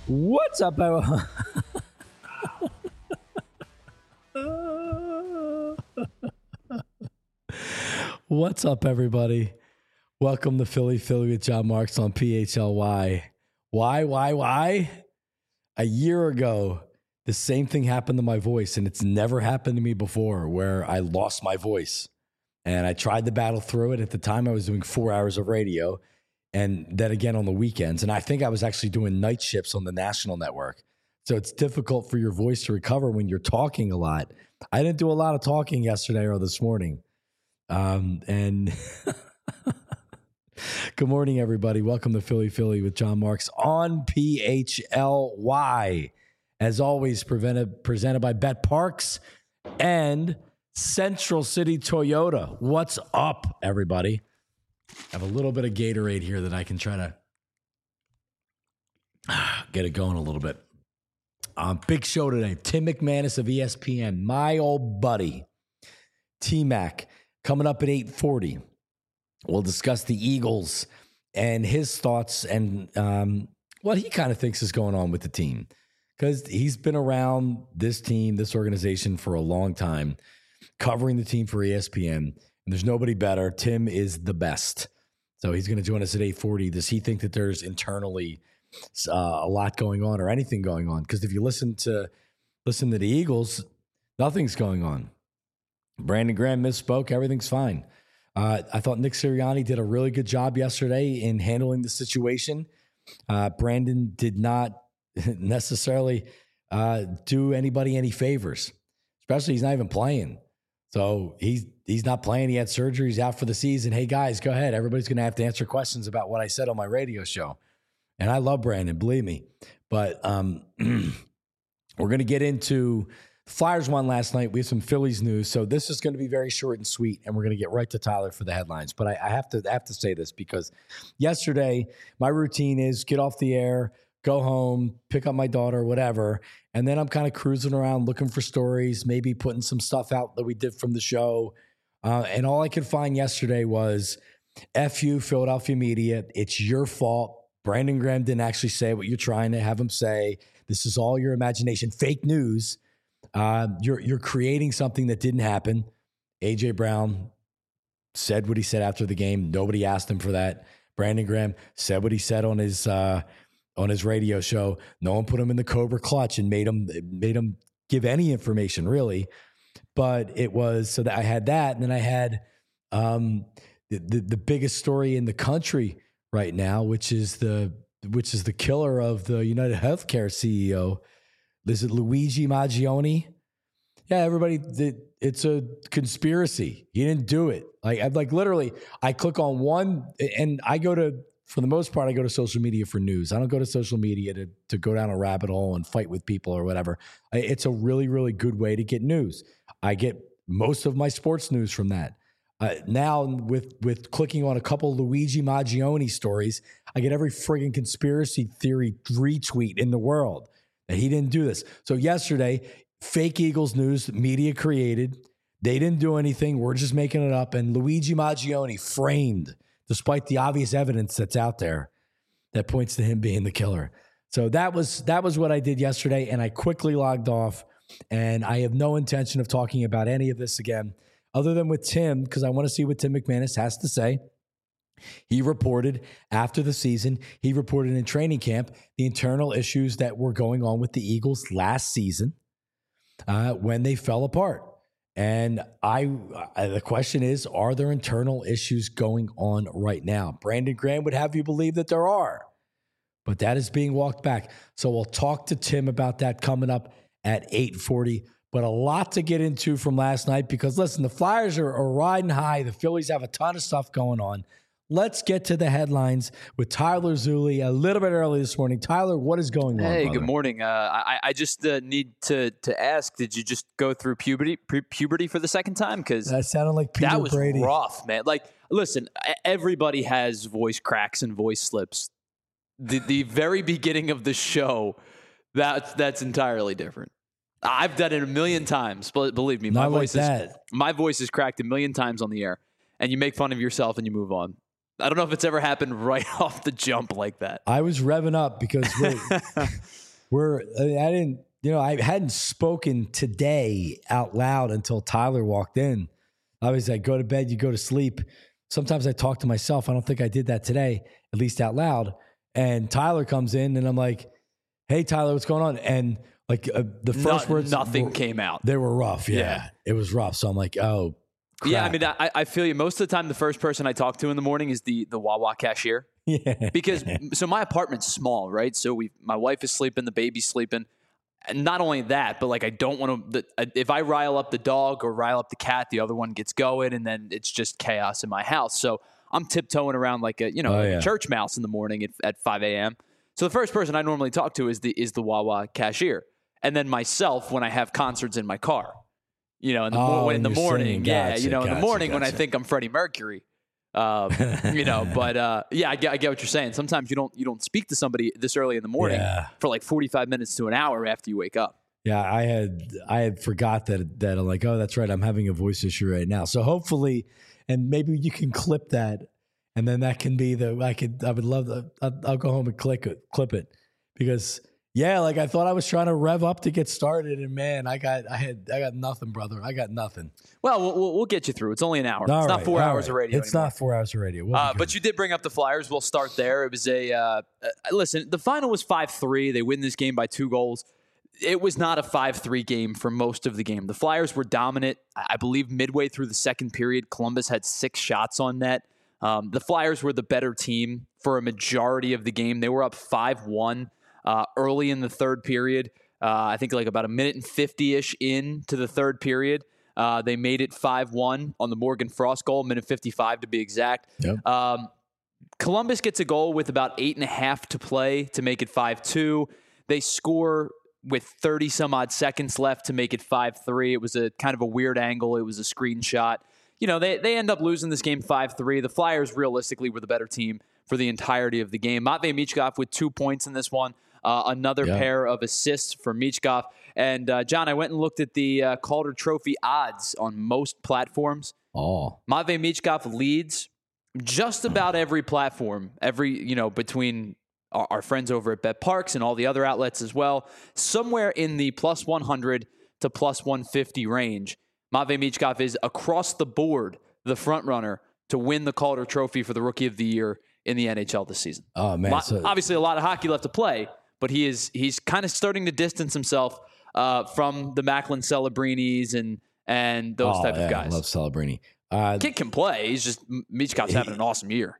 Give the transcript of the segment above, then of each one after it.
What's up, everyone? What's up, everybody? Welcome to Philly with John Marks on PHLY. Why? A year ago, the same thing happened to my voice, and it's never happened to me before where I lost my voice. And I tried to battle through it. At the time, I was doing 4 hours of radio, and then again on the weekends. And I think I was actually doing night shifts on the national network. So it's difficult for your voice to recover when you're talking a lot. I didn't do a lot of talking yesterday or this morning. And good morning, everybody. Welcome to Philly with John Marks on PHLY. As always, presented by Bet Parks and Central City Toyota. What's up, everybody? I have a little bit of Gatorade here that I can try to get it going a little bit. Big show today. Tim McManus of ESPN, my old buddy, T-Mac, coming up at 8:40. We'll discuss the Eagles and his thoughts and what he kind of thinks is going on with the team. Because he's been around this team, this organization for a long time, covering the team for ESPN. And there's nobody better. Tim is the best. So he's going to join us at 8:40. Does he think that there's internally a lot going on or anything going on? Because if you listen to the Eagles, nothing's going on. Brandon Graham misspoke. Everything's fine. I thought Nick Sirianni did a really good job yesterday in handling the situation. Brandon did not necessarily do anybody any favors, especially he's not even playing. So he's not playing. He had surgery. He's out for the season. Hey, guys, go ahead. Everybody's going to have to answer questions about what I said on my radio show. And I love Brandon, believe me. But we're going to get into Flyers won last night. We have some Phillies news. So this is going to be very short and sweet, and we're going to get right to Tyler for the headlines. But I have to say this because yesterday my routine is get off the air, go home, pick up my daughter, whatever. And then I'm kind of cruising around looking for stories, maybe putting some stuff out that we did from the show. And all I could find yesterday was, F you, Philadelphia media. It's your fault. Brandon Graham didn't actually say what you're trying to have him say. This is all your imagination. Fake news. You're creating something that didn't happen. A.J. Brown said what he said after the game. Nobody asked him for that. Brandon Graham said what he said on his radio show. No one put him in the Cobra clutch and made him give any information, really. But it was so that I had that, and then I had the biggest story in the country right now, which is the killer of the United Healthcare CEO. Is it Luigi Maggioni? Yeah, everybody, it's a conspiracy. He didn't do it. Like literally, I click on one, and I go to, for the most part, I go to social media for news. I don't go to social media to go down a rabbit hole and fight with people or whatever. It's a really, really good way to get news. I get most of my sports news from that. Now, with clicking on a couple Luigi Maggioni stories, I get every friggin' conspiracy theory retweet in the world that he didn't do this. So yesterday, fake Eagles news, media created. They didn't do anything. We're just making it up. And Luigi Maggioni framed, despite the obvious evidence that's out there that points to him being the killer. So that was what I did yesterday, and I quickly logged off. And I have no intention of talking about any of this again, other than with Tim, because I want to see what Tim McManus has to say. He reported after the season, he reported in training camp, the internal issues that were going on with the Eagles last season when they fell apart. And the question is, are there internal issues going on right now? Brandon Graham would have you believe that there are, but that is being walked back. So we'll talk to Tim about that coming up at 8:40. But a lot to get into from last night because, listen, the Flyers are riding high. The Phillies have a ton of stuff going on. Let's get to the headlines with Tyler Zulli a little bit early this morning. Tyler, what is going on? Hey, brother? Good morning. I just need to ask, did you just go through puberty for the second time? Because that sounded like Peter that was Brady. Rough, man. Like, listen, everybody has voice cracks and voice slips. The very beginning of the show, that's entirely different. I've done it a million times, but believe me, my voice is cracked a million times on the air, and you make fun of yourself and you move on. I don't know if it's ever happened right off the jump like that. I was revving up because I hadn't spoken today out loud until Tyler walked in. I was like, go to bed, you go to sleep. Sometimes I talk to myself. I don't think I did that today, at least out loud. And Tyler comes in and I'm like, hey, Tyler, what's going on? And like the first words. Nothing came out. They were rough. Yeah. It was rough. So I'm like, oh, crap. Yeah, I mean, I feel you. Most of the time, the first person I talk to in the morning is the Wawa cashier. Yeah. Because, so my apartment's small, right? So my wife is sleeping, the baby's sleeping. And not only that, but like I don't want to, if I rile up the dog or rile up the cat, the other one gets going and then it's just chaos in my house. So I'm tiptoeing around like a church mouse in the morning at 5 a.m. So the first person I normally talk to is the Wawa cashier. And then myself when I have concerts in my car, in the morning. In the morning when I think I'm Freddie Mercury. But I get what you're saying. Sometimes you don't speak to somebody this early in the morning for like 45 minutes to an hour after you wake up. Yeah, I had forgot that I'm like, oh, that's right. I'm having a voice issue right now. So hopefully, and maybe you can clip that, and then that can be I would love that. I'll go home and clip it because. Yeah, like I thought I was trying to rev up to get started, and man, I got nothing, brother. I got nothing. Well, we'll get you through. It's only an hour. It's not 4 hours of radio. It's not 4 hours of radio. But you did bring up the Flyers. We'll start there. It was listen. The final was 5-3. They win this game by 2 goals. It was not a 5-3 game for most of the game. The Flyers were dominant. I believe midway through the second period, Columbus had 6 shots on net. The Flyers were the better team for a majority of the game. They were up 5-1. Early in the third period, I think like about a minute and 50-ish into the third period, they made it 5-1 on the Morgan Frost goal, minute 55 to be exact. Yep. Columbus gets a goal with about 8.5 to play to make it 5-2. They score with 30-some-odd seconds left to make it 5-3. It was a kind of a weird angle. It was a screenshot. They end up losing this game 5-3. The Flyers realistically were the better team for the entirety of the game. Matvei Michkov with 2 points in this one. Another pair of assists for Michkov. And, John, I went and looked at the Calder Trophy odds on most platforms. Oh. Matvei Michkov leads just about every platform, between our friends over at BetParks and all the other outlets as well. Somewhere in the plus 100 to plus 150 range, Matvei Michkov is across the board the front runner to win the Calder Trophy for the Rookie of the Year in the NHL this season. Oh, man. Obviously, a lot of hockey left to play. But he's kind of starting to distance himself from the Macklin Celebrinis and those type of guys. I love Celebrini. Kid can play. He's just Michkov's having an awesome year.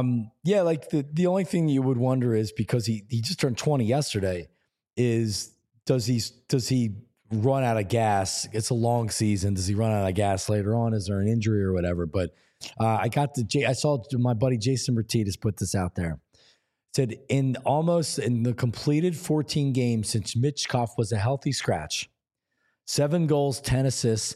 Like the only thing you would wonder is because he just turned 20 yesterday. Is does he run out of gas? It's a long season. Does he run out of gas later on? Is there an injury or whatever? But I saw my buddy Jason Martinez put this out there. Said in the completed 14 games since Michkov was a healthy scratch, 7 goals, 10 assists,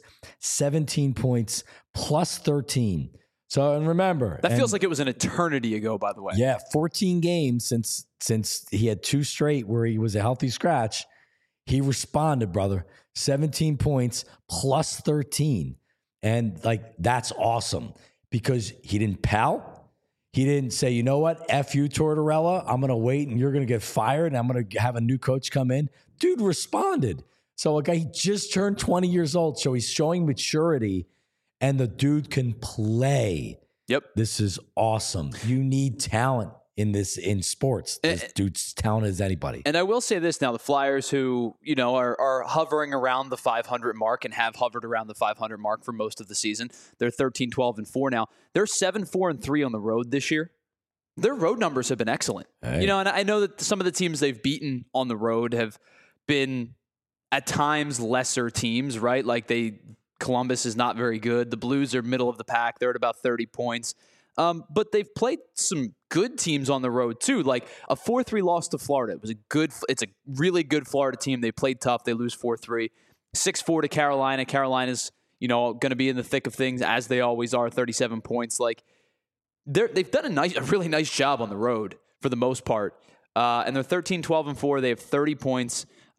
17 points, plus 13. So, and remember. That feels like it was an eternity ago, by the way. Yeah, 14 games since he had 2 straight where he was a healthy scratch. He responded, brother. 17 points, plus 13. And, that's awesome because he didn't pout. He didn't say, you know what, F you, Tortorella. I'm going to wait and you're going to get fired and I'm going to have a new coach come in. Dude responded. So a guy, he just turned 20 years old. So he's showing maturity and the dude can play. Yep. This is awesome. You need talent in sports. This dude's talented as anybody. And I will say this now, the Flyers who, are hovering around the 500 mark and have hovered around the 500 mark for most of the season. They're 13-12-4 now. They're 7-4-3 on the road this year. Their road numbers have been excellent. Hey. And I know that some of the teams they've beaten on the road have been at times lesser teams, right? Columbus is not very good. The Blues are middle of the pack. They're at about 30 points. But they've played some good teams on the road too. Like a 4-3 loss to Florida. It's a really good Florida team. They played tough. They lose 4-3. 6-4 to Carolina. Carolina's, going to be in the thick of things as they always are. 37 points. They've done a really nice job on the road for the most part. And they're 13-12-4. They have 30 points.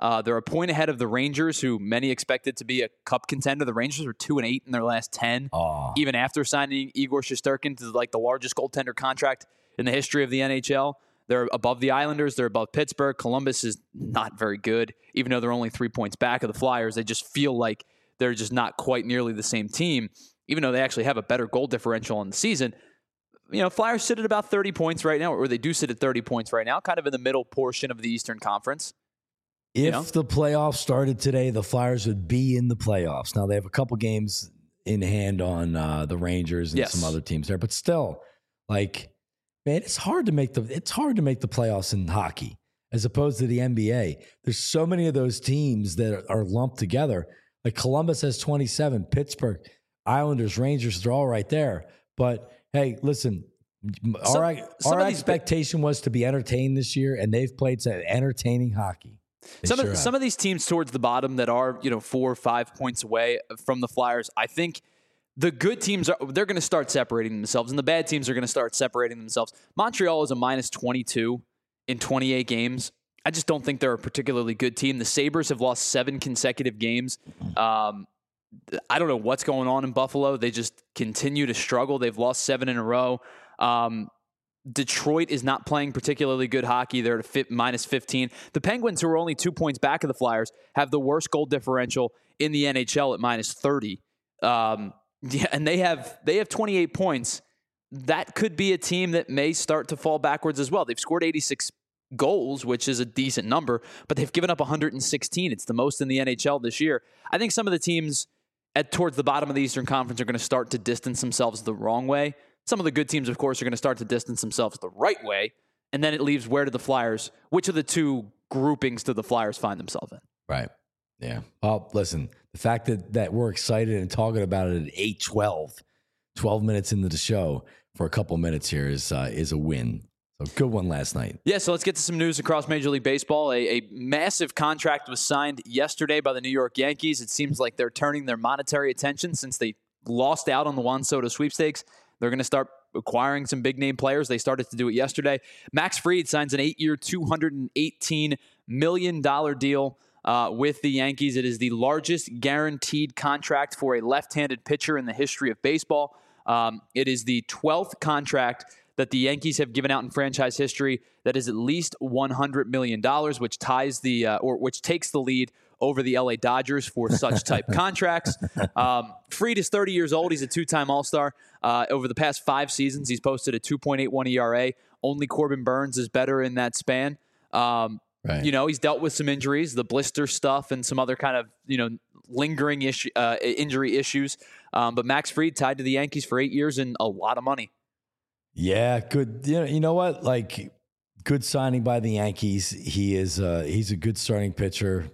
They're a point ahead of the Rangers, who many expected to be a cup contender. The Rangers are 2-8 in their last 10, even after signing Igor Shesterkin to like the largest goaltender contract in the history of the NHL. They're above the Islanders. They're above Pittsburgh. Columbus is not very good, even though they're only 3 points back of the Flyers. They just feel like they're just not quite nearly the same team, even though they actually have a better goal differential in the season. Flyers sit at about 30 points right now, or they do sit at 30 points right now, kind of in the middle portion of the Eastern Conference. If the playoffs started today, the Flyers would be in the playoffs. Now, they have a couple games in hand on the Rangers and some other teams there, but still, like, man, it's hard to make the playoffs in hockey as opposed to the NBA. There's so many of those teams that are lumped together. Like Columbus has 27, Pittsburgh, Islanders, Rangers, they're all right there. But hey, listen, our expectation was to be entertained this year, and they've played some entertaining hockey. Some of these teams towards the bottom that are 4 or 5 points away from the Flyers, I think the good teams they're going to start separating themselves, and the bad teams are going to start separating themselves. Montreal is a minus 22 in 28 games. I just don't think they're a particularly good team. The Sabres have lost 7 consecutive games. I don't know what's going on in Buffalo. They just continue to struggle. They've lost 7 in a row. Detroit is not playing particularly good hockey. They're at minus 15. The Penguins, who are only 2 points back of the Flyers, have the worst goal differential in the NHL at minus 30. And they have 28 points. That could be a team that may start to fall backwards as well. They've scored 86 goals, which is a decent number, but they've given up 116. It's the most in the NHL this year. I think some of the teams towards the bottom of the Eastern Conference are going to start to distance themselves the wrong way. Some of the good teams, of course, are going to start to distance themselves the right way, and then it leaves where do the Flyers, which of the two groupings do the Flyers find themselves in? Right. Yeah. Well, listen, the fact that we're excited and talking about it at 8:12, 12 minutes into the show for a couple minutes here is a win. So good one last night. Yeah, so let's get to some news across Major League Baseball. A massive contract was signed yesterday by the New York Yankees. It seems like they're turning their monetary attention since they lost out on the Juan Soto sweepstakes. They're going to start acquiring some big-name players. They started to do it yesterday. Max Fried signs an 8-year, $218 million deal with the Yankees. It is the largest guaranteed contract for a left-handed pitcher in the history of baseball. It is the 12th contract that the Yankees have given out in franchise history that is at least $100 million, which ties which takes the lead over the LA Dodgers for such type contracts. Fried is 30 years old. He's a 2-time All-Star. Over the past 5 seasons, he's posted a 2.81 ERA. Only Corbin Burns is better in that span. Right. He's dealt with some injuries, the blister stuff, and some other kind of lingering injury issues. But Max Fried tied to the Yankees for 8 years and a lot of money. Yeah, good. You know what? Like, good signing by the Yankees. He's a good starting pitcher.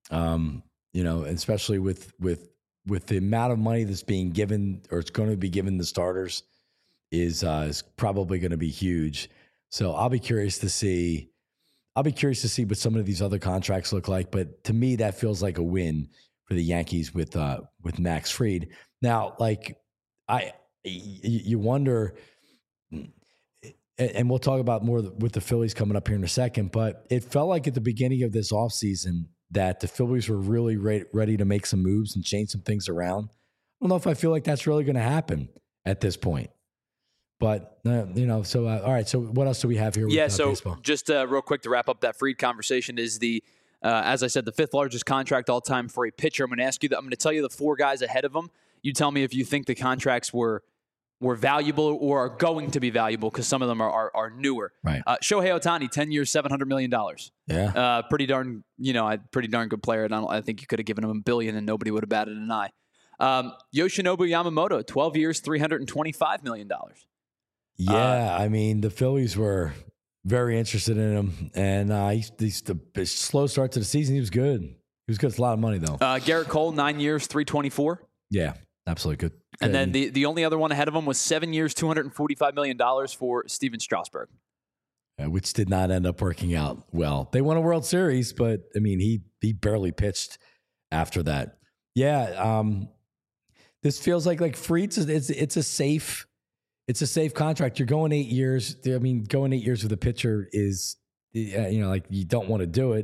Especially with the amount of money that's being given, or it's going to be given the starters, is probably going to be huge. So I'll be curious to see what some of these other contracts look like. But to me, that feels like a win for the Yankees with Max Fried. Now, like you wonder, and we'll talk about more with the Phillies coming up here in a second. But it felt like at the beginning of this offseason that the Phillies were really ready to make some moves and change some things around. I don't know if I feel like that's really going to happen at this point. But, all right. So what else do we have here with baseball? Just real quick to wrap up that Fried conversation is as I said, the 5th largest contract all time for a pitcher. I'm going to ask you that. I'm going to tell you the 4 guys ahead of them. You tell me if you think the contracts were valuable or are going to be valuable, because some of them are newer. Right. Shohei Ohtani, 10 years, $700 million. Yeah. Pretty darn good player. And I think you could have given him $1 billion and nobody would have batted an eye. Yoshinobu Yamamoto, 12 years, $325 million. Yeah. I mean, the Phillies were very interested in him. And he's the slow start to the season. He was good. He was good. It's a lot of money, though. Garrett Cole, 9 years, $324. Yeah. Absolutely good. And then the only other one ahead of him was 7 years, $245 million for Steven Strasburg. Which did not end up working out well. They won a World Series, but, I mean, he barely pitched after that. Yeah, this feels like Fried's, it's a safe contract. You're going 8 years. I mean, going 8 years with a pitcher is, you don't want to do it.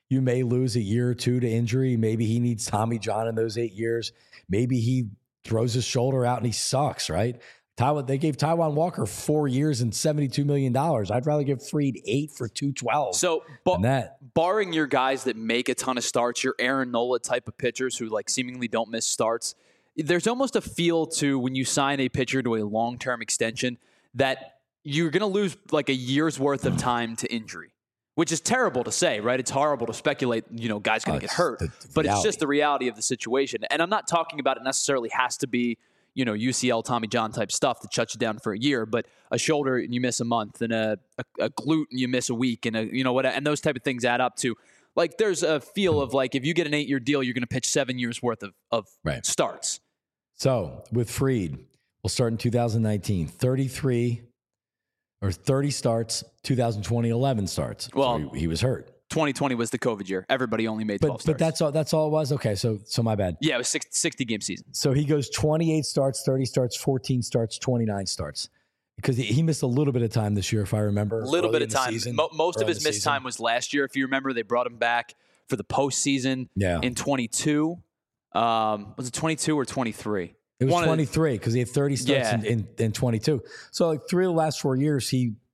You may lose a year or two to injury. Maybe he needs Tommy John in those 8 years. Maybe he throws his shoulder out and he sucks, right? They gave Taijuan Walker 4 years and $72 million. I'd rather give Fried 8 for $212. So, barring your guys that make a ton of starts, your Aaron Nola type of pitchers who like seemingly don't miss starts, there's almost a feel to when you sign a pitcher to a long-term extension that you're going to lose like a year's worth of time to injury, which is terrible to say, right? It's horrible to speculate, guys going to get hurt, but it's just the reality of the situation. And I'm not talking about it necessarily has to be, UCL, Tommy John type stuff that shuts you down for a year, but a shoulder and you miss a month, and a glute and you miss a week, and and those type of things add up to, like, there's a feel of like, if you get an 8-year deal, you're going to pitch 7 years worth of starts. So with Fried, we'll start in 2019, 33 or 30 starts, 2020, 11 starts. Well, so he was hurt. 2020 was the COVID year. Everybody only made 12 starts. But that's all it was? Okay, so my bad. Yeah, it was 60-game season. So he goes 28 starts, 30 starts, 14 starts, 29 starts. Because he missed a little bit of time this year, if I remember. A little bit of time. Most of his missed time was last year. If you remember, they brought him back for the postseason in 22. Was it 22 or 23? It was 23 because he had 30 starts in 22. So like 3 of the last 4 years,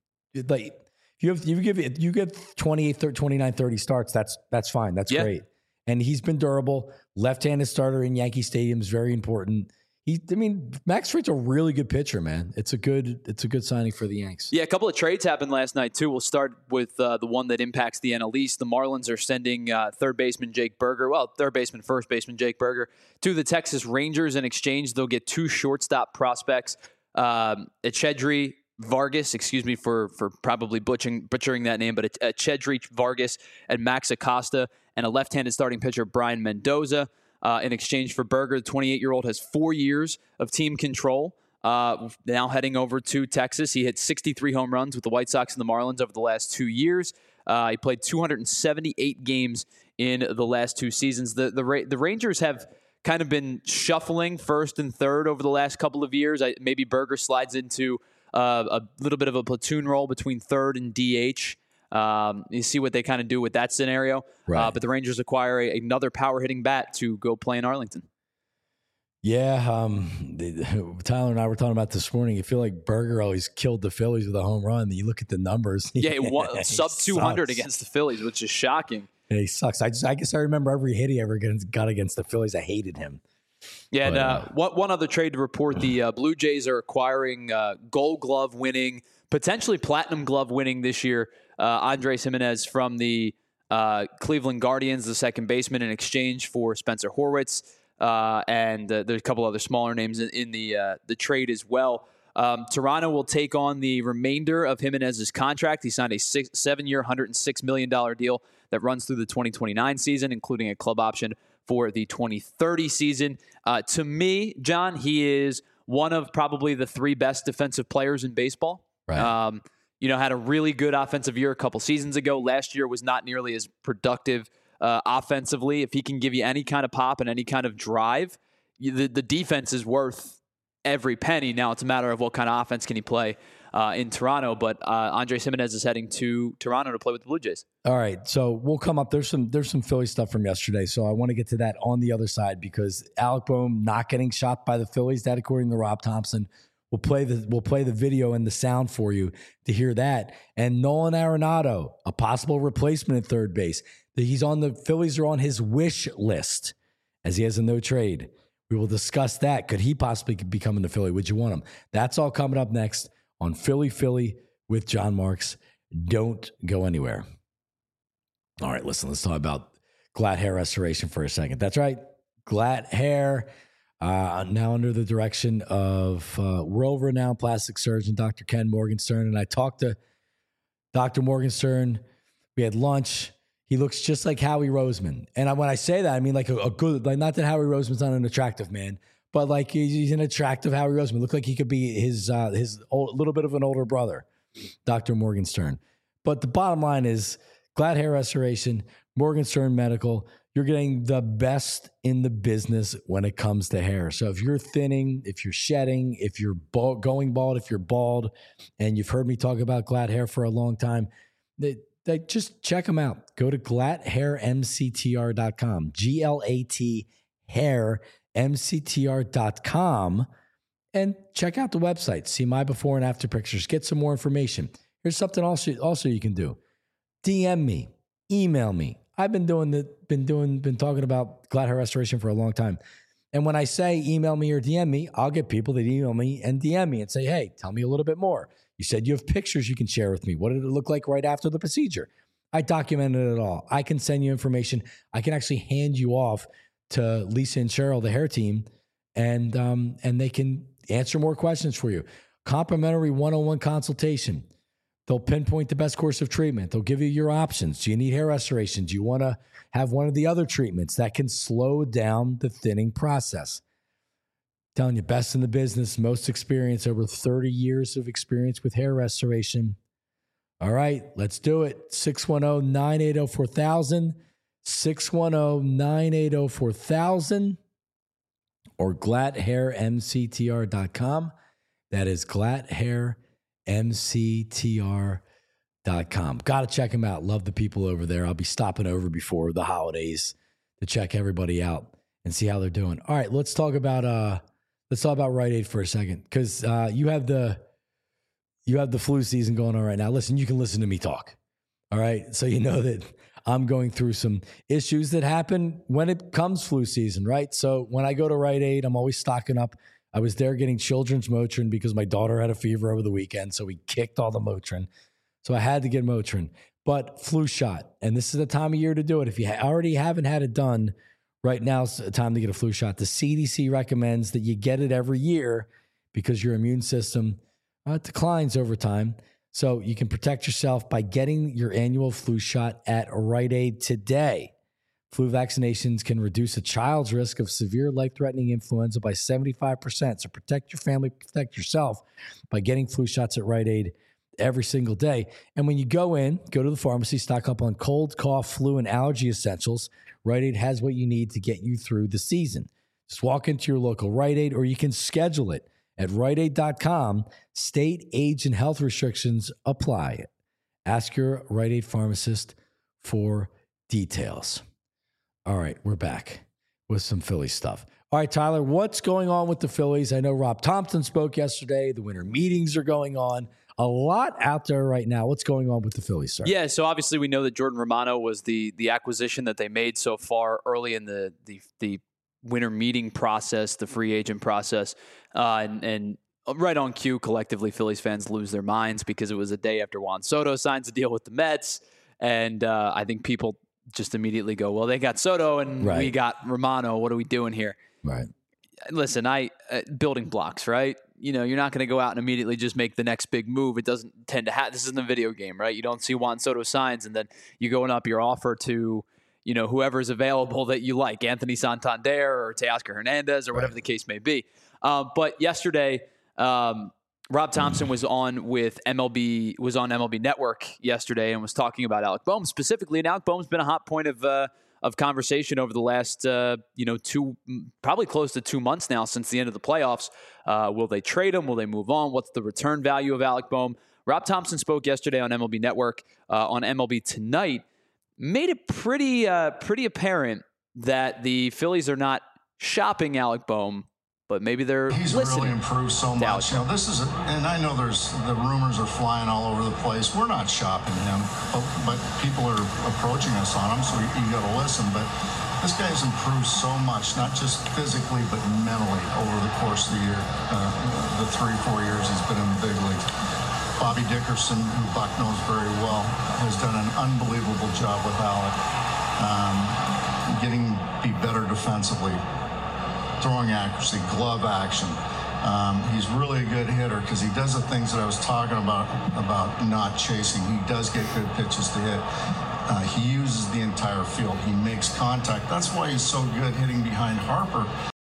you get 28, 30, 29, 30 starts. That's fine. That's great. And he's been durable. Left-handed starter in Yankee Stadium is very important. Max Fried's a really good pitcher, man. It's a good signing for the Yanks. Yeah, a couple of trades happened last night too. We'll start with the one that impacts the NL East. The Marlins are sending third baseman Jake Burger, first baseman Jake Burger, to the Texas Rangers in exchange. They'll get 2 shortstop prospects, Echedri Vargas, excuse me for probably butchering that name, but Echedri Vargas and Max Acosta, and a left-handed starting pitcher, Brian Mendoza. In exchange for Burger, the 28-year-old has 4 years of team control. Now heading over to Texas. He hit 63 home runs with the White Sox and the Marlins over the last 2 years. He played 278 games in the last 2 seasons. The Rangers have kind of been shuffling first and third over the last couple of years. Maybe Burger slides into a little bit of a platoon role between third and DH. You see what they kind of do with that scenario. Right. But the Rangers acquire another power hitting bat to go play in Arlington. Yeah. Tyler and I were talking about this morning. You feel like Burger always killed the Phillies with a home run. You look at the numbers. Yeah, sub 200 against the Phillies, which is shocking. Yeah, he sucks. I guess I remember every hit he ever got against the Phillies. I hated him. Yeah, and one other trade to report. The Blue Jays are acquiring Gold Glove winning, potentially Platinum Glove winning this year, Andres Gimenez from the Cleveland Guardians, the second baseman, in exchange for Spencer Horwitz. And there's a couple other smaller names in the trade as well. Toronto will take on the remainder of Gimenez's contract. He signed a 7-year, $106 million deal that runs through the 2029 season, including a club option for the 2030 season. To me, John, he is one of probably the 3 best defensive players in baseball. Right. Had a really good offensive year a couple seasons ago. Last year was not nearly as productive offensively. If he can give you any kind of pop and any kind of drive, the defense is worth every penny. Now it's a matter of what kind of offense can he play in Toronto. But Andres Gimenez is heading to Toronto to play with the Blue Jays. All right, so we'll come up. There's some Philly stuff from yesterday, so I want to get to that on the other side because Alec Boehm not getting shot by the Phillies. That, according to Rob Thompson. We'll play the video and the sound for you to hear that. And Nolan Arenado, a possible replacement at third base. The Phillies are on his wish list as he has a no trade. We will discuss that. Could he possibly become in the Philly? Would you want him? That's all coming up next on Philly with John Marks. Don't go anywhere. All right, listen, let's talk about Glatt Hair Restoration for a second. That's right. Glatt Hair. Now under the direction of world-renowned plastic surgeon, Dr. Ken Morgenstern. And I talked to Dr. Morgenstern. We had lunch. He looks just like Howie Roseman. And when I say that, I mean like a good, like not that Howie Roseman's not an attractive man, but like he's an attractive Howie Roseman. Looked like he could be his little bit of an older brother, Dr. Morgenstern. But the bottom line is Glatt Hair Restoration, Morgenstern Medical. You're getting the best in the business when it comes to hair. So if you're thinning, if you're shedding, if you're going bald, if you're bald, and you've heard me talk about Glatt Hair for a long time, just check them out. Go to glathairmctr.com, GLAT hairmctr.com, and check out the website. See my before and after pictures. Get some more information. Here's something also you can do. DM me, email me. I've been talking about Glad Hair Restoration for a long time. And when I say email me or DM me, I'll get people that email me and DM me and say, hey, tell me a little bit more. You said you have pictures you can share with me. What did it look like right after the procedure? I documented it all. I can send you information. I can actually hand you off to Lisa and Cheryl, the hair team, and they can answer more questions for you. Complimentary one-on-one consultation. They'll pinpoint the best course of treatment. They'll give you your options. Do you need hair restoration? Do you want to have one of the other treatments that can slow down the thinning process? I'm telling you, best in the business, most experience, over 30 years of experience with hair restoration. All right, let's do it. 610-980-4000, 610-980-4000, or glathairmctr.com. That is glathairmctr.com. Got to check them out. Love the people over there. I'll be stopping over before the holidays to check everybody out and see how they're doing. All right, let's talk about Rite Aid for a second, because you have the flu season going on right now. Listen, you can listen to me talk. All right, so you know that I'm going through some issues that happen when it comes flu season, right? So when I go to Rite Aid, I'm always stocking up. I was there getting children's Motrin because my daughter had a fever over the weekend, so we kicked all the Motrin. So I had to get Motrin. But flu shot, and this is the time of year to do it. If you already haven't had it done, right now's the time to get a flu shot. The CDC recommends that you get it every year because your immune system declines over time. So you can protect yourself by getting your annual flu shot at Rite Aid today. Flu vaccinations can reduce a child's risk of severe life-threatening influenza by 75%. So protect your family, protect yourself by getting flu shots at Rite Aid every single day. And when you go to the pharmacy, stock up on cold, cough, flu, and allergy essentials. Rite Aid has what you need to get you through the season. Just walk into your local Rite Aid, or you can schedule it at riteaid.com. State, age, and health restrictions apply. Ask your Rite Aid pharmacist for details. All right, we're back with some Philly stuff. All right, Tyler, what's going on with the Phillies? I know Rob Thompson spoke yesterday. The winter meetings are going on. A lot out there right now. What's going on with the Phillies, sir? Yeah, so obviously we know that Jordan Romano was the acquisition that they made so far early in the winter meeting process, the free agent process, and right on cue, collectively, Phillies fans lose their minds because it was a day after Juan Soto signs a deal with the Mets, and I think people just immediately go, well, they got Soto and we got Romano. What are we doing here? Right. Listen, building blocks, right? You know, you're not going to go out and immediately just make the next big move. It doesn't tend to happen. This isn't a video game, right? You don't see Juan Soto signs and then you going up your offer to, you know, whoever's available that you like, Anthony Santander or Teoscar Hernandez or whatever the case may be. But yesterday, Rob Thompson was on MLB Network yesterday and was talking about Alec Bohm specifically. And Alec Bohm's been a hot point of conversation over the last, probably close to 2 months now since the end of the playoffs. Will they trade him? Will they move on? What's the return value of Alec Bohm? Rob Thompson spoke yesterday on MLB Network, on MLB Tonight, made it pretty apparent that the Phillies are not shopping Alec Bohm, but maybe they're listening. He's really improved so much. You know, and I know the rumors are flying all over the place. We're not shopping him, but people are approaching us on him, so you got to listen. But this guy's improved so much, not just physically, but mentally over the course of the year, the 3-4 years he's been in the big league. Bobby Dickerson, who Buck knows very well, has done an unbelievable job with Alec, be better defensively. Throwing accuracy, glove action. He's really a good hitter because he does the things that I was talking about not chasing. He does get good pitches to hit. He uses the entire field. He makes contact. That's why he's so good hitting behind Harper.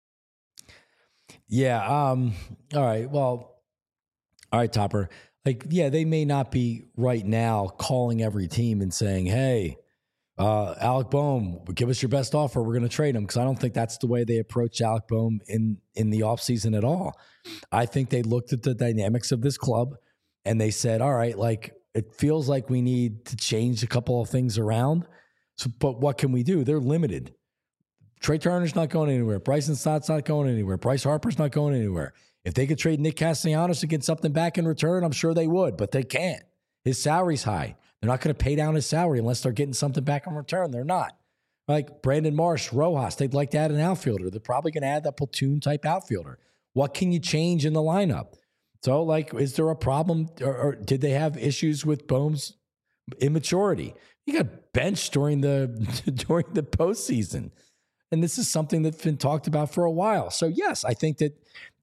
Yeah. All right. Well, all right, Topper. They may not be right now calling every team and saying, hey, Alec Bohm, give us your best offer. We're going to trade him, because I don't think that's the way they approach Alec Bohm in the offseason at all. I think they looked at the dynamics of this club and they said, all right, it feels like we need to change a couple of things around. So, but what can we do? They're limited. Trey Turner's not going anywhere. Bryson Stott's not going anywhere. Bryce Harper's not going anywhere. If they could trade Nick Castellanos and get something back in return, I'm sure they would, but they can't. His salary's high. They're not going to pay down his salary unless they're getting something back in return. They're not. Like Brandon Marsh, Rojas, they'd like to add an outfielder. They're probably going to add that platoon-type outfielder. What can you change in the lineup? So, like, is there a problem, or did they have issues with Bohm's immaturity? He got benched during the postseason, and this is something that's been talked about for a while. So, yes, I think that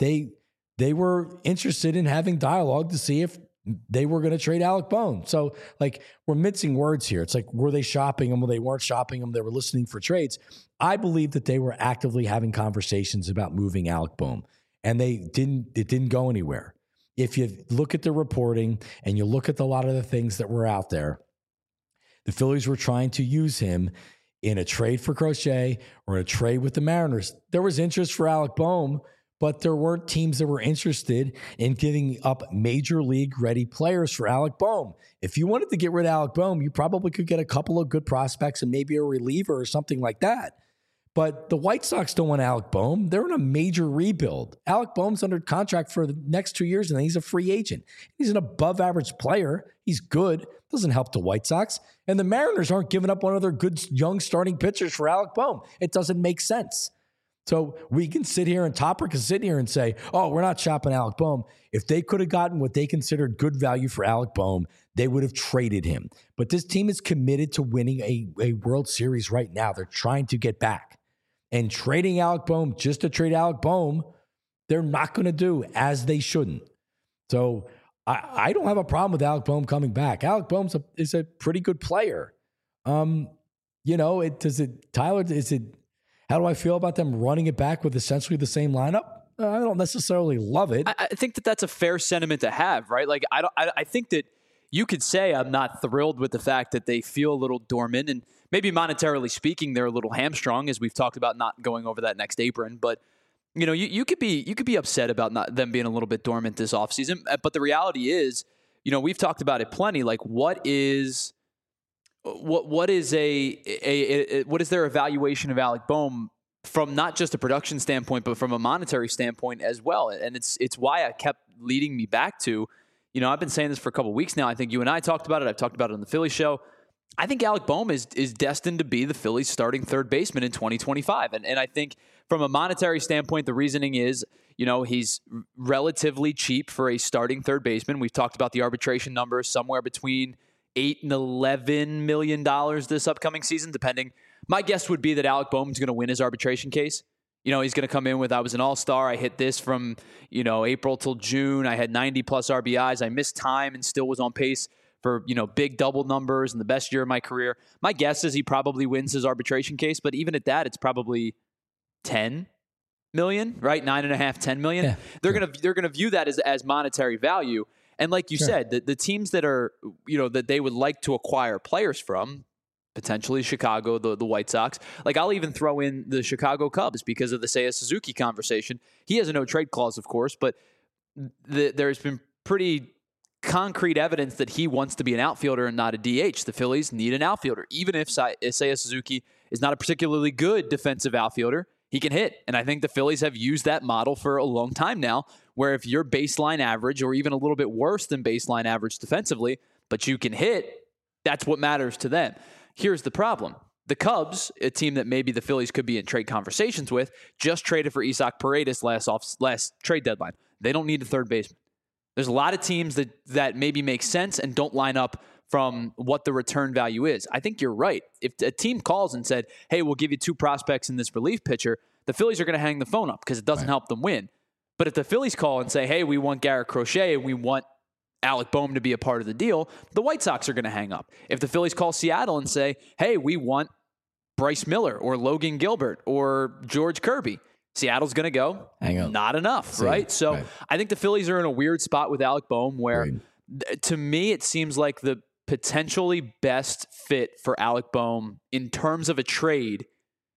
they were interested in having dialogue to see if they were going to trade Alec Bohm. So, like, we're mincing words here. It's like, were they shopping him? Well, they weren't shopping him. They were listening for trades. I believe that they were actively having conversations about moving Alec Bohm, and it didn't go anywhere. If you look at the reporting and you look at a lot of the things that were out there, the Phillies were trying to use him in a trade for Crochet or a trade with the Mariners. There was interest for Alec Bohm, but there weren't teams that were interested in giving up major league ready players for Alec Bohm. If you wanted to get rid of Alec Bohm, you probably could get a couple of good prospects and maybe a reliever or something like that. But the White Sox don't want Alec Bohm. They're in a major rebuild. Alec Bohm's under contract for the next 2 years, and then he's a free agent. He's an above-average player. He's good. Doesn't help the White Sox. And the Mariners aren't giving up one of their good young starting pitchers for Alec Bohm. It doesn't make sense. So we can sit here, and Topper can sit here and say, oh, we're not shopping Alec Bohm. If they could have gotten what they considered good value for Alec Bohm, they would have traded him. But this team is committed to winning a World Series right now. They're trying to get back. And trading Alec Bohm just to trade Alec Bohm, they're not going to do, as they shouldn't. So I don't have a problem with Alec Bohm coming back. Alec Bohm is a pretty good player. Tyler, how do I feel about them running it back with essentially the same lineup? I don't necessarily love it. I think that's a fair sentiment to have, right? Like, I think that you could say I'm not thrilled with the fact that they feel a little dormant, and maybe monetarily speaking, they're a little hamstrung, as we've talked about not going over that next apron. But you could be upset about them being a little bit dormant this offseason. But the reality is, we've talked about it plenty. Like, what is their evaluation of Alec Bohm from not just a production standpoint, but from a monetary standpoint as well? And it's why I kept leading me back to, I've been saying this for a couple of weeks now. I think you and I talked about it. I've talked about it on the Philly show. I think Alec Bohm is destined to be the Phillies' starting third baseman in 2025. And I think from a monetary standpoint, the reasoning is, he's relatively cheap for a starting third baseman. We've talked about the arbitration numbers, somewhere between $8 and $11 million this upcoming season, depending. My guess would be that Alec Bohm's going to win his arbitration case. He's going to come in with, I was an all-star. I hit this from, April till June. I had 90-plus RBIs. I missed time and still was on pace for, big double numbers and the best year of my career. My guess is he probably wins his arbitration case, but even at that, it's probably 10 million, right? 9.5, 10 million. Yeah, they're going to view that as monetary value. And like you said, the teams that are, that they would like to acquire players from, potentially Chicago, the White Sox. Like, I'll even throw in the Chicago Cubs because of the Seiya Suzuki conversation. He has a no-trade clause, of course, but there's been pretty concrete evidence that he wants to be an outfielder and not a DH. The Phillies need an outfielder. Even if Seiya Suzuki is not a particularly good defensive outfielder, he can hit. And I think the Phillies have used that model for a long time now, where if you're baseline average or even a little bit worse than baseline average defensively, but you can hit, that's what matters to them. Here's the problem. The Cubs, a team that maybe the Phillies could be in trade conversations with, just traded for Isaac Paredes last trade deadline. They don't need a third baseman. There's a lot of teams that maybe make sense and don't line up from what the return value is. I think you're right. If a team calls and said, hey, we'll give you 2 prospects in this relief pitcher, the Phillies are going to hang the phone up because it doesn't help them win. But if the Phillies call and say, hey, we want Garrett Crochet and we want Alec Bohm to be a part of the deal, the White Sox are going to hang up. If the Phillies call Seattle and say, hey, we want Bryce Miller or Logan Gilbert or George Kirby, Seattle's going to go, hang up. Not enough, right? So I think the Phillies are in a weird spot with Alec Bohm where, to me, it seems like the potentially best fit for Alec Bohm in terms of a trade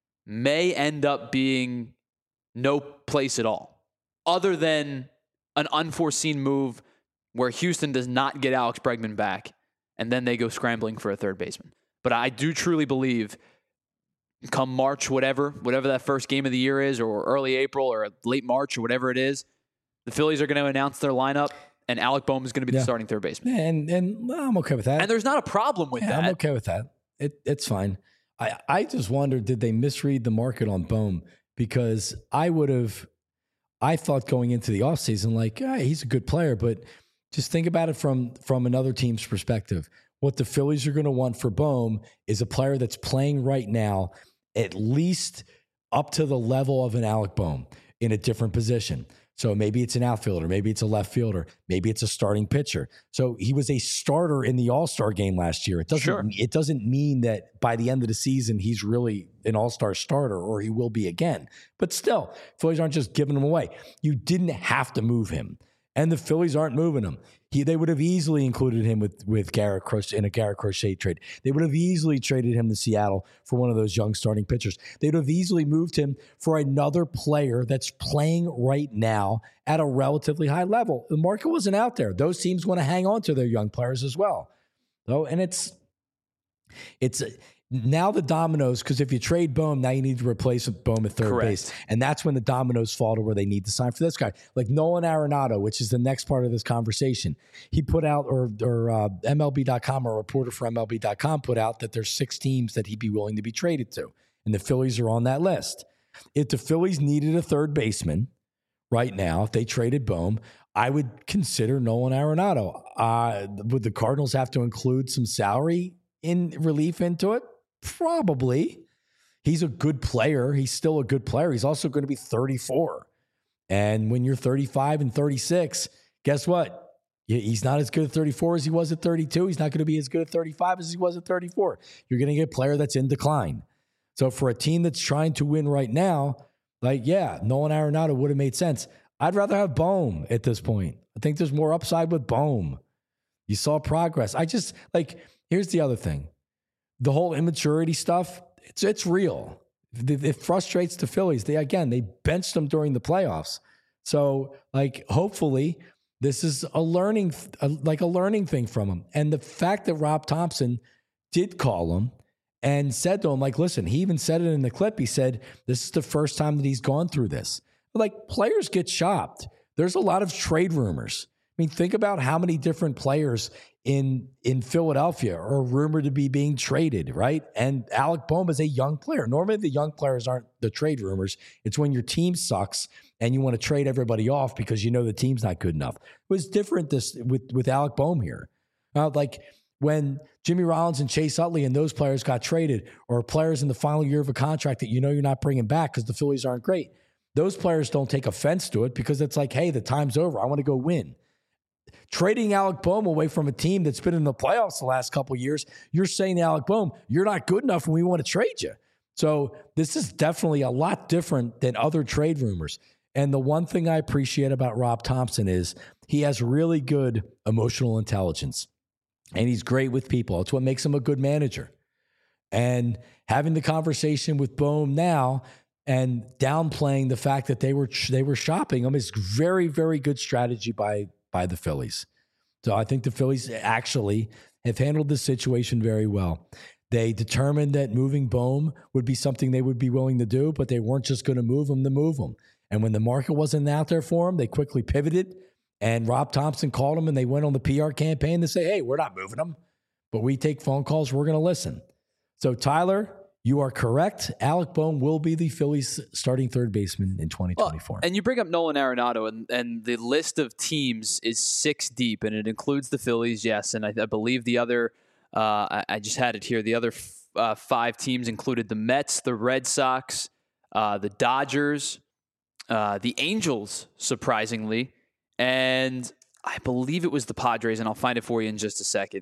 may end up being no place at all, other than an unforeseen move where Houston does not get Alex Bregman back and then they go scrambling for a third baseman. But I do truly believe come March, whatever that first game of the year is, or early April or late March or whatever it is, the Phillies are going to announce their lineup, and Alec Bohm is going to be the starting third baseman. And well, I'm okay with that. And there's not a problem with that. I'm okay with that. It's fine. I just wondered, did they misread the market on Bohm? Because I thought going into the offseason, like, he's a good player, but just think about it from another team's perspective. What the Phillies are going to want for Bohm is a player that's playing right now at least up to the level of an Alec Bohm in a different position. So maybe it's an outfielder, maybe it's a left fielder, maybe it's a starting pitcher. So he was a starter in the All-Star game last year. It doesn't mean that by the end of the season he's really an All-Star starter, or he will be again. But still, Phillies aren't just giving him away. You didn't have to move him, and the Phillies aren't moving him. They would have easily included him with Garrett Crochet in a Garrett Crochet trade. They would have easily traded him to Seattle for one of those young starting pitchers. They would have easily moved him for another player that's playing right now at a relatively high level. The market wasn't out there. Those teams want to hang on to their young players as well. So, and it's now the dominoes, because if you trade Bohm, now you need to replace Bohm at third base. And that's when the dominoes fall to where they need to sign for this guy. Like Nolan Arenado, which is the next part of this conversation. He put out, or MLB.com, or a reporter for MLB.com put out that there's 6 teams that he'd be willing to be traded to. And the Phillies are on that list. If the Phillies needed a third baseman right now, if they traded Bohm, I would consider Nolan Arenado. Would the Cardinals have to include some salary in relief into it? Probably. He's a good player. He's still a good player. He's also going to be 34. And when you're 35 and 36, guess what? He's not as good at 34 as he was at 32. He's not going to be as good at 35 as he was at 34. You're going to get a player that's in decline. So for a team that's trying to win right now, like, yeah, Nolan Arenado would have made sense. I'd rather have Bohm at this point. I think there's more upside with Bohm. You saw progress. Here's the other thing. The whole immaturity stuff, it's real. It frustrates the Phillies. They benched them during the playoffs. So, hopefully this is a learning thing from him. And the fact that Rob Thompson did call him and said to him, listen, he even said it in the clip. He said, this is the first time that he's gone through this. Players get shopped. There's a lot of trade rumors. I mean, think about how many different players in Philadelphia are rumored to be being traded, right? And Alec Bohm is a young player. Normally, the young players aren't the trade rumors. It's when your team sucks and you want to trade everybody off because you know the team's not good enough. It was different with Alec Bohm here. When Jimmy Rollins and Chase Utley and those players got traded, or players in the final year of a contract that you know you're not bringing back because the Phillies aren't great, those players don't take offense to it because it's like, hey, the time's over. I want to go win. Trading Alec Bohm away from a team that's been in the playoffs the last couple of years, you're saying to Alec Bohm, you're not good enough and we want to trade you. So this is definitely a lot different than other trade rumors. And the one thing I appreciate about Rob Thompson is he has really good emotional intelligence. And he's great with people. It's what makes him a good manager. And having the conversation with Bohm now and downplaying the fact that they were shopping him is very, very good strategy by the Phillies. So I think the Phillies actually have handled the situation very well. They determined that moving Bohm would be something they would be willing to do, but they weren't just going to move him. And when the market wasn't out there for him, they quickly pivoted. And Rob Thompson called him and they went on the PR campaign to say, hey, we're not moving him, but we take phone calls. We're going to listen. So Tyler, you are correct. Alec Bohm will be the Phillies starting third baseman in 2024. Well, and you bring up Nolan Arenado, and the list of teams is 6 deep, and it includes the Phillies, yes. And I believe the other, I just had it here, the other 5 teams included the Mets, the Red Sox, the Dodgers, the Angels, surprisingly, and I believe it was the Padres, and I'll find it for you in just a second.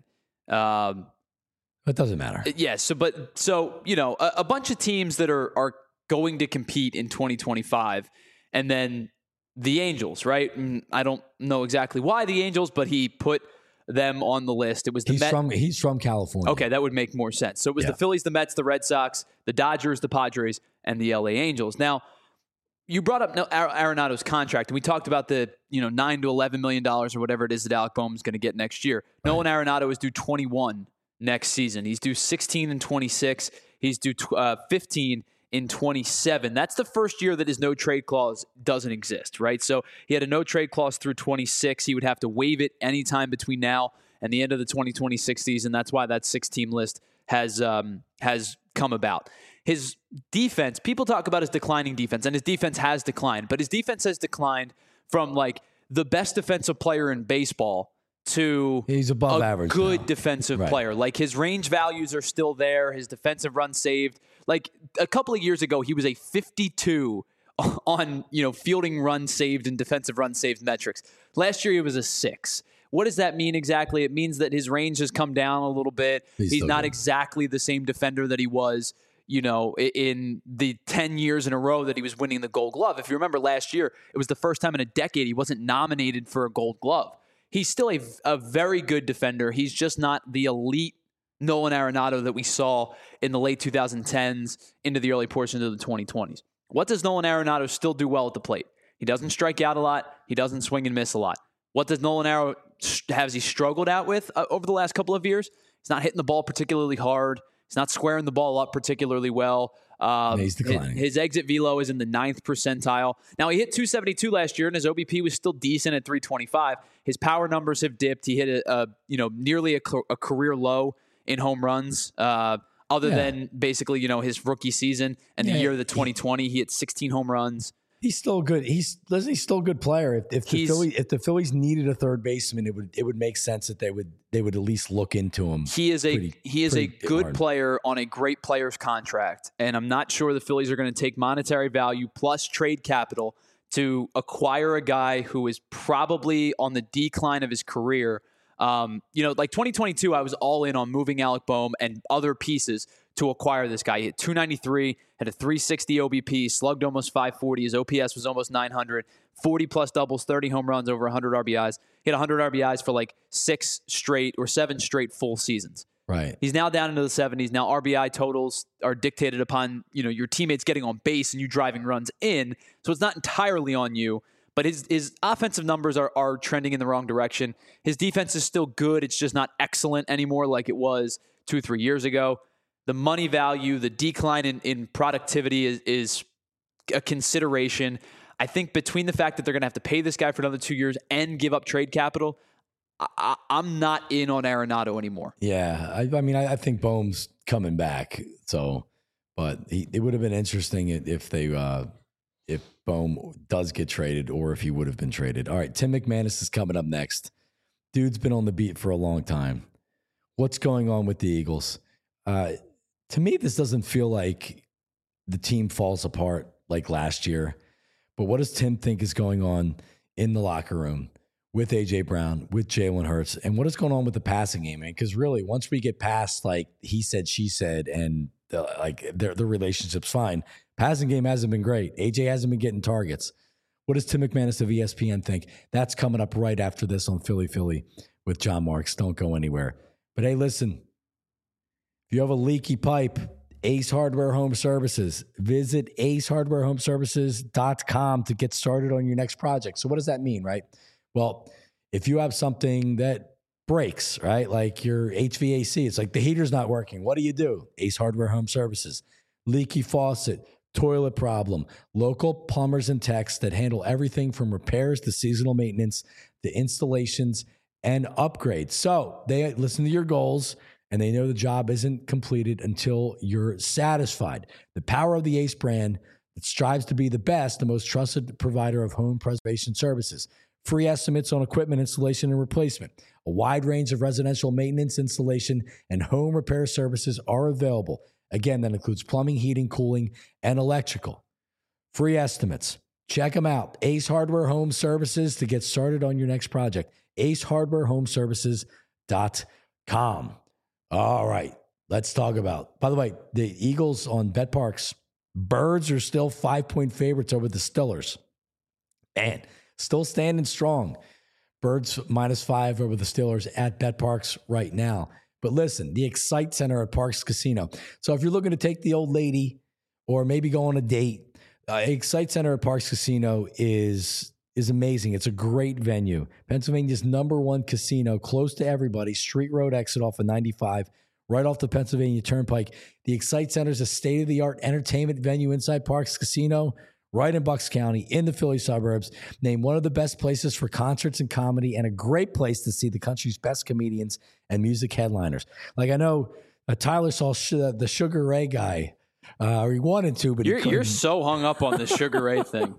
It doesn't matter. Yeah. So you know, a bunch of teams that are going to compete in 2025, and then the Angels, right? I don't know exactly why the Angels, but he put them on the list. It was the He's from California. Okay, that would make more sense. So it was the Phillies, the Mets, the Red Sox, the Dodgers, the Padres, and the LA Angels. Now, you brought up Arenado's contract, and we talked about the $9 to $11 million or whatever it is that Alec Boehm's going to get next year. Right. Nolan Arenado is due 21 next season. He's due 16 and 26. He's due 15 in 27. That's the first year that his no trade clause doesn't exist, right? So he had a no trade clause through 26. He would have to waive it anytime between now and the end of the 2026 season. That's why that 6-team list has come about. His defense, people talk about his declining defense, and his defense has declined, but his defense has declined from like the best defensive player in baseball to he's above average good now. Defensive player. Like his range values are still there. His defensive run saved. Like a couple of years ago, he was a 52 on fielding run saved and defensive run saved metrics. Last year, he was a 6. What does that mean exactly? It means that his range has come down a little bit. He's not exactly the same defender that he was, in the 10 years in a row that he was winning the Gold Glove. If you remember last year, it was the first time in a decade he wasn't nominated for a Gold Glove. He's still a very good defender. He's just not the elite Nolan Arenado that we saw in the late 2010s into the early portions of the 2020s. What does Nolan Arenado still do well at the plate? He doesn't strike out a lot. He doesn't swing and miss a lot. What does Nolan Arenado has he struggled out with over the last couple of years? He's not hitting the ball particularly hard. He's not squaring the ball up particularly well. He's declining. His exit velo is in the 9th percentile. Now, he hit 272 last year, and his OBP was still decent at 325. His power numbers have dipped. He hit nearly a career low in home runs. Other than basically his rookie season and the year of the 2020, he hit 16 home runs. He's still good. He's still a good player. If the Phillies needed a third baseman, it would make sense that they would at least look into him. He is a good player on a great player's contract, and I'm not sure the Phillies are going to take monetary value plus trade capital to acquire a guy who is probably on the decline of his career. Like 2022, I was all in on moving Alec Boehm and other pieces to acquire this guy. He hit 293, had a 360 OBP, slugged almost 540. His OPS was almost 900, 40 plus doubles, 30 home runs, over 100 RBIs. He had 100 RBIs for like 7 straight full seasons. Right. He's now down into the 70s. Now RBI totals are dictated upon, your teammates getting on base and you driving runs in. So it's not entirely on you. But his offensive numbers are trending in the wrong direction. His defense is still good. It's just not excellent anymore like it was 2-3 years ago. The money value, the decline in productivity is a consideration. I think between the fact that they're going to have to pay this guy for another 2 years and give up trade capital, I'm not in on Arenado anymore. Yeah, I think Boehm's coming back. So, but it would have been interesting if Boehm does get traded or if he would have been traded. All right, Tim McManus is coming up next. Dude's been on the beat for a long time. What's going on with the Eagles? To me, this doesn't feel like the team falls apart like last year. But what does Tim think is going on in the locker room with A.J. Brown, with Jalen Hurts, and what is going on with the passing game? Because really, once we get past like he said, she said, and the relationship's fine, passing game hasn't been great. AJ hasn't been getting targets. What does Tim McManus of ESPN think? That's coming up right after this on Philly with John Marks. Don't go anywhere. But hey, listen, if you have a leaky pipe, Ace Hardware Home Services. Visit acehardwarehomeservices.com to get started on your next project. So what does that mean, right? Well, if you have something that breaks, right, like your HVAC, it's like the heater's not working. What do? Ace Hardware Home Services. Leaky faucet, toilet problem, local plumbers and techs that handle everything from repairs to seasonal maintenance to installations and upgrades. So they listen to your goals and they know the job isn't completed until you're satisfied. The power of the Ace brand that strives to be the best, the most trusted provider of home preservation services. Free estimates on equipment installation and replacement. A wide range of residential maintenance, installation, and home repair services are available. Again, that includes plumbing, heating, cooling, and electrical. Free estimates. Check them out. Ace Hardware Home Services to get started on your next project. acehardwarehomeservices.com. All right, let's talk about, by the way, the Eagles on BetParx. Birds are still 5-point favorites over the Steelers. And still standing strong. Birds -5 over the Steelers at BetParx right now. But listen, the Excite Center at Parx Casino. So if you're looking to take the old lady or maybe go on a date, Excite Center at Parks Casino is amazing. It's a great venue. Pennsylvania's #1 casino, close to everybody. Street Road exit off of 95, right off the Pennsylvania Turnpike. The Excite Center is a state-of-the-art entertainment venue inside Parks Casino, right in Bucks County, in the Philly suburbs. Named one of the best places for concerts and comedy, and a great place to see the country's best comedians and music headliners. Like, I know Tyler saw the Sugar Ray guy. Or he wanted to, but you're so hung up on the Sugar Ray thing.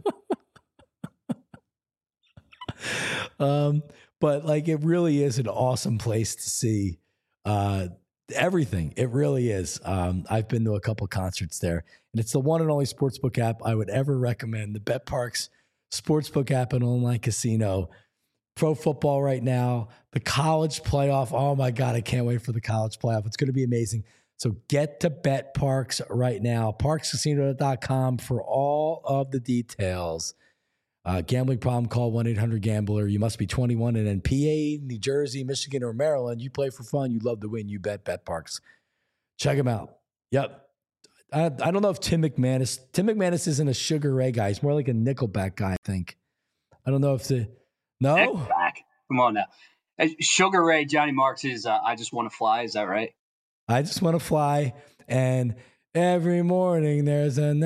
But like, it really is an awesome place to see everything. It really is. I've been to a couple concerts there, and it's the one and only sportsbook app I would ever recommend. The BetParx sportsbook app and online casino. Pro football right now, the college playoff. Oh my God, I can't wait for the college playoff. It's going to be amazing. So get to BetParx right now. ParksCasino.com for all of the details. Gambling problem, call 1-800-GAMBLER. You must be 21 and in PA, New Jersey, Michigan, or Maryland. You play for fun. You love to win. You bet BetParx. Check them out. Yep. I don't know if Tim McManus isn't a Sugar Ray guy. He's more like a Nickelback guy, I think. I don't know if no? Nickelback. Come on now. Sugar Ray, Johnny Marks is I Just Want to Fly. Is that right? I just want to fly, and every morning there's a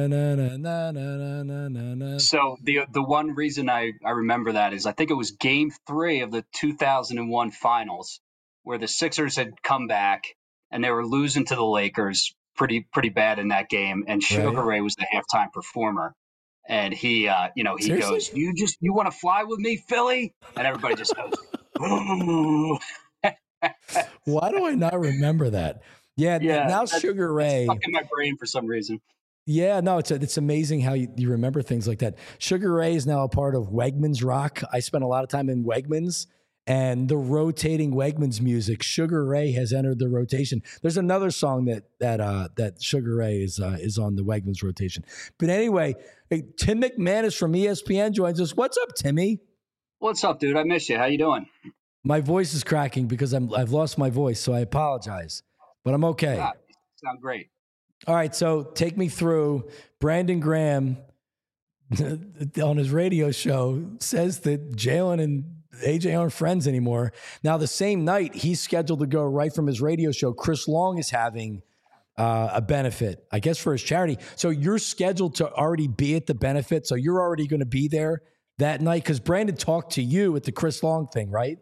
na-na-na-na-na-na-na-na. So the one reason I remember that is I think it was Game 3 of the 2001 Finals, where the Sixers had come back and they were losing to the Lakers pretty bad in that game, and Sugar Ray was the halftime performer, and he goes, you want to fly with me, Philly? And everybody just goes, ooh. Why do I not remember that? Yeah, now Sugar Ray. Stuck in my brain for some reason. Yeah, no, it's amazing how you remember things like that. Sugar Ray is now a part of Wegmans Rock. I spent a lot of time in Wegmans, and the rotating Wegmans music. Sugar Ray has entered the rotation. There's another song that Sugar Ray is on the Wegmans rotation. But anyway, Tim McManus from ESPN joins us. What's up, Timmy? What's up, dude? I miss you. How you doing? My voice is cracking because I've lost my voice, so I apologize, but I'm okay. You sound great. All right, so take me through. Brandon Graham on his radio show says that Jalen and AJ aren't friends anymore. Now, the same night, he's scheduled to go right from his radio show. Chris Long is having a benefit, I guess, for his charity. So you're scheduled to already be at the benefit, so you're already going to be there that night? Because Brandon talked to you at the Chris Long thing, right?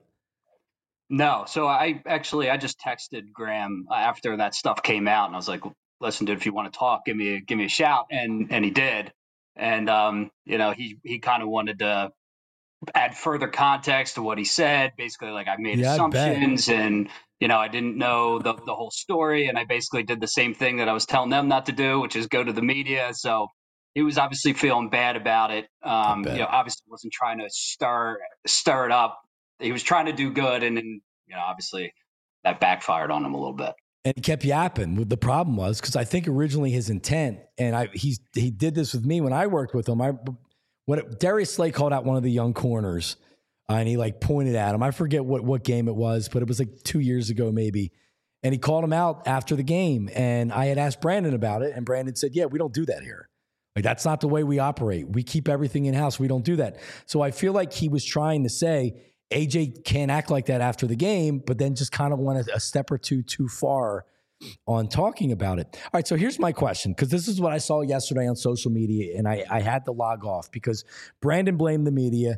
No. So I just texted Graham after that stuff came out, and I was like, listen, dude, if you want to talk, give me a shout. And he did. And, he kind of wanted to add further context to what he said. Basically, like, I made assumptions and, I didn't know the whole story. And I basically did the same thing that I was telling them not to do, which is go to the media. So he was obviously feeling bad about it. Obviously wasn't trying to stir it up. He was trying to do good, and then, obviously that backfired on him a little bit. And he kept yapping. The problem was, because I think originally his intent, and he did this with me when I worked with him. Darius Slay called out one of the young corners, and he pointed at him. I forget what game it was, but it was 2 years ago maybe. And he called him out after the game, and I had asked Brandon about it, and Brandon said, "Yeah, we don't do that here. That's not the way we operate. We keep everything in house. We don't do that." So I feel like he was trying to say, AJ can't act like that after the game, but then just kind of went a step or two too far on talking about it. All right, so here's my question, because this is what I saw yesterday on social media, and I had to log off because Brandon blamed the media.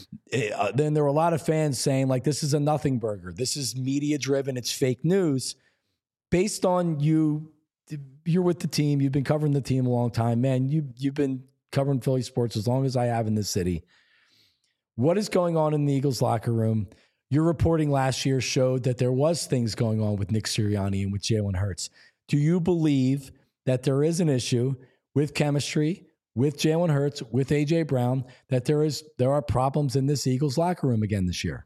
Then there were a lot of fans saying, this is a nothing burger. This is media-driven. It's fake news. Based on you're with the team. You've been covering the team a long time. Man, you've been covering Philly sports as long as I have in this city. What is going on in the Eagles locker room? Your reporting last year showed that there was things going on with Nick Sirianni and with Jalen Hurts. Do you believe that there is an issue with chemistry, with Jalen Hurts, with A.J. Brown, that there are problems in this Eagles locker room again this year?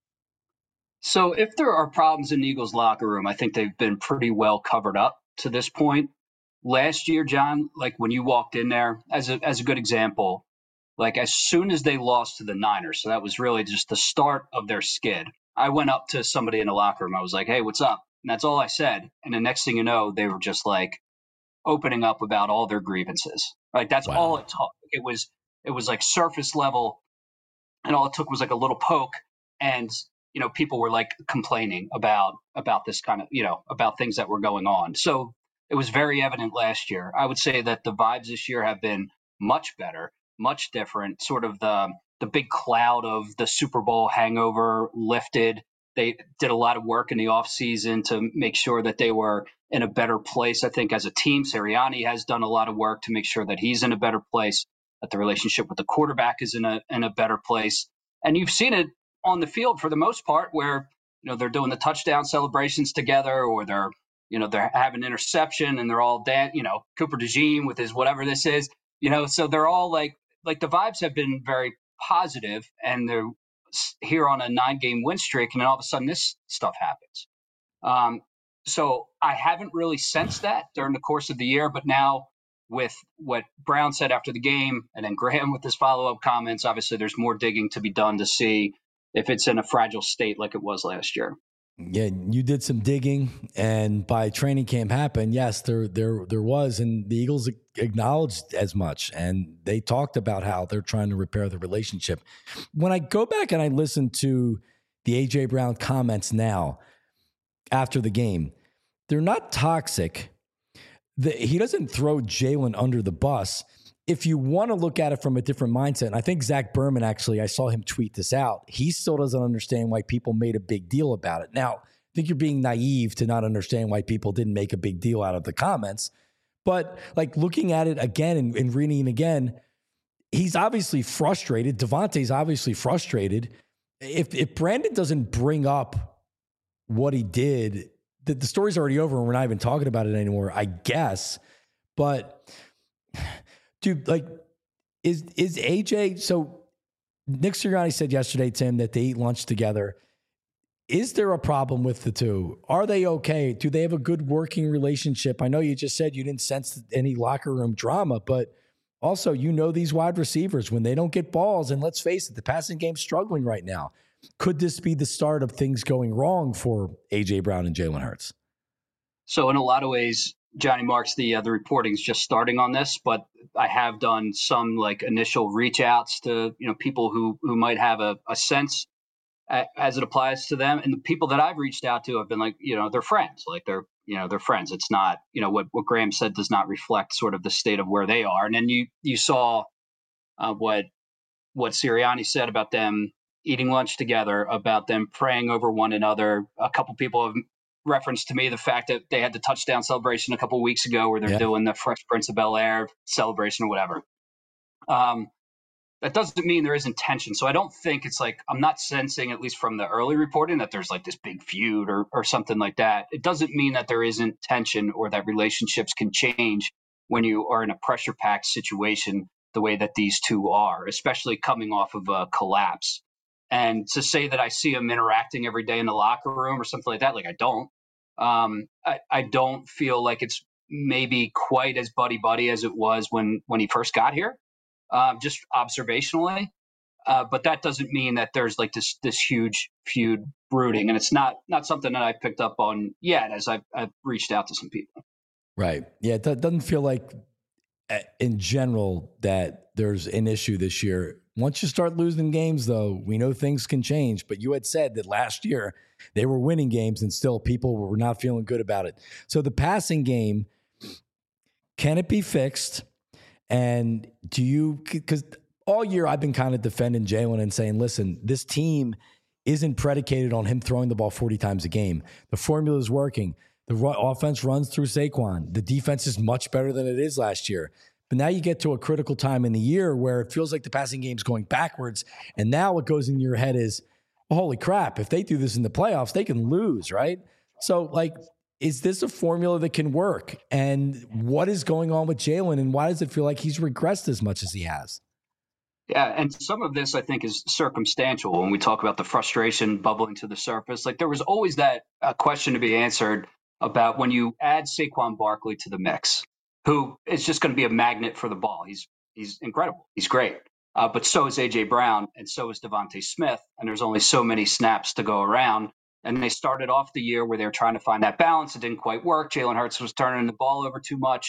So if there are problems in the Eagles locker room, I think they've been pretty well covered up to this point. Last year, John, when you walked in there, as a good example, as soon as they lost to the Niners, so that was really just the start of their skid, I went up to somebody in the locker room. I was like, "Hey, what's up?" And that's all I said. And the next thing you know, they were just like, opening up about all their grievances. Like that's all it took. It was like surface level, and all it took was like a little poke, and people were like complaining about this kind of about things that were going on. So it was very evident last year. I would say that the vibes this year have been much better, much different. Sort of the big cloud of the Super Bowl hangover lifted. They did a lot of work in the offseason to make sure that they were in a better place. I think as a team, Sirianni has done a lot of work to make sure that he's in a better place, that the relationship with the quarterback is in a better place. And you've seen it on the field for the most part, where they're doing the touchdown celebrations together, or they're having interception and they're all Cooper DeJean with his whatever this is, so they're all like the vibes have been very positive, and they're here on a 9-game win streak, and then all of a sudden this stuff happens. So I haven't really sensed that during the course of the year, but now with what Brown said after the game, and then Graham with his follow-up comments, obviously there's more digging to be done to see if it's in a fragile state like it was last year. Yeah, you did some digging, and by training camp happened, yes, there was, and the Eagles acknowledged as much, and they talked about how they're trying to repair the relationship. When I go back and I listen to the A.J. Brown comments now after the game, they're not toxic. He doesn't throw Jalen under the bus. If you want to look at it from a different mindset, and I think Zach Berman, actually, I saw him tweet this out. He still doesn't understand why people made a big deal about it. Now, I think you're being naive to not understand why people didn't make a big deal out of the comments. But like looking at it again and reading it again, he's obviously frustrated. Devontae's obviously frustrated. If Brandon doesn't bring up what he did, the story's already over and we're not even talking about it anymore, I guess. But dude, like, is AJ, so Nick Sirianni said yesterday, Tim, that they eat lunch together. Is there a problem with the two? Are they okay? Do they have a good working relationship? I know you just said you didn't sense any locker room drama, but also, these wide receivers, when they don't get balls, and let's face it, the passing game's struggling right now. Could this be the start of things going wrong for A.J. Brown and Jalen Hurts? So in a lot of ways, Johnny Marks, the reporting's just starting on this, but I have done some like initial reach outs to people who might have a sense as it applies to them, and the people that I've reached out to have been like they're friends, like they're friends. It's not what Graham said does not reflect sort of the state of where they are. And then you saw what Sirianni said about them eating lunch together, about them praying over one another. A couple people have referenced to me the fact that they had the touchdown celebration a couple of weeks ago where they're doing the Fresh Prince of Bel-Air celebration or whatever. That doesn't mean there isn't tension. So I don't think it's like, I'm not sensing, at least from the early reporting, that there's like this big feud or something like that. It doesn't mean that there isn't tension or that relationships can change when you are in a pressure packed situation the way that these two are, especially coming off of a collapse. And to say that I see them interacting every day in the locker room or something like that, like I don't. I don't feel like it's maybe quite as buddy-buddy as it was when he first got here, just observationally. But that doesn't mean that there's like this huge feud brooding. And it's not something that I picked up on yet as I've reached out to some people. Right. Yeah, it doesn't feel like in general that there's an issue this year. Once you start losing games, though, we know things can change. But you had said that last year they were winning games and still people were not feeling good about it. So the passing game, can it be fixed? And because all year I've been kind of defending Jalen and saying, listen, this team isn't predicated on him throwing the ball 40 times a game. The formula is working. The offense runs through Saquon. The defense is much better than it is last year. But now you get to a critical time in the year where it feels like the passing game's going backwards. And now what goes in your head is, oh, holy crap, if they do this in the playoffs, they can lose, right? So, like, is this a formula that can work? And what is going on with Jalen, and why does it feel like he's regressed as much as he has? Yeah, and some of this, I think, is circumstantial when we talk about the frustration bubbling to the surface. Like, there was always that question to be answered about when you add Saquon Barkley to the mix, who is just going to be a magnet for the ball. He's incredible. He's great. But so is A.J. Brown, and so is Devontae Smith, and there's only so many snaps to go around. And they started off the year where they were trying to find that balance. It didn't quite work. Jalen Hurts was turning the ball over too much.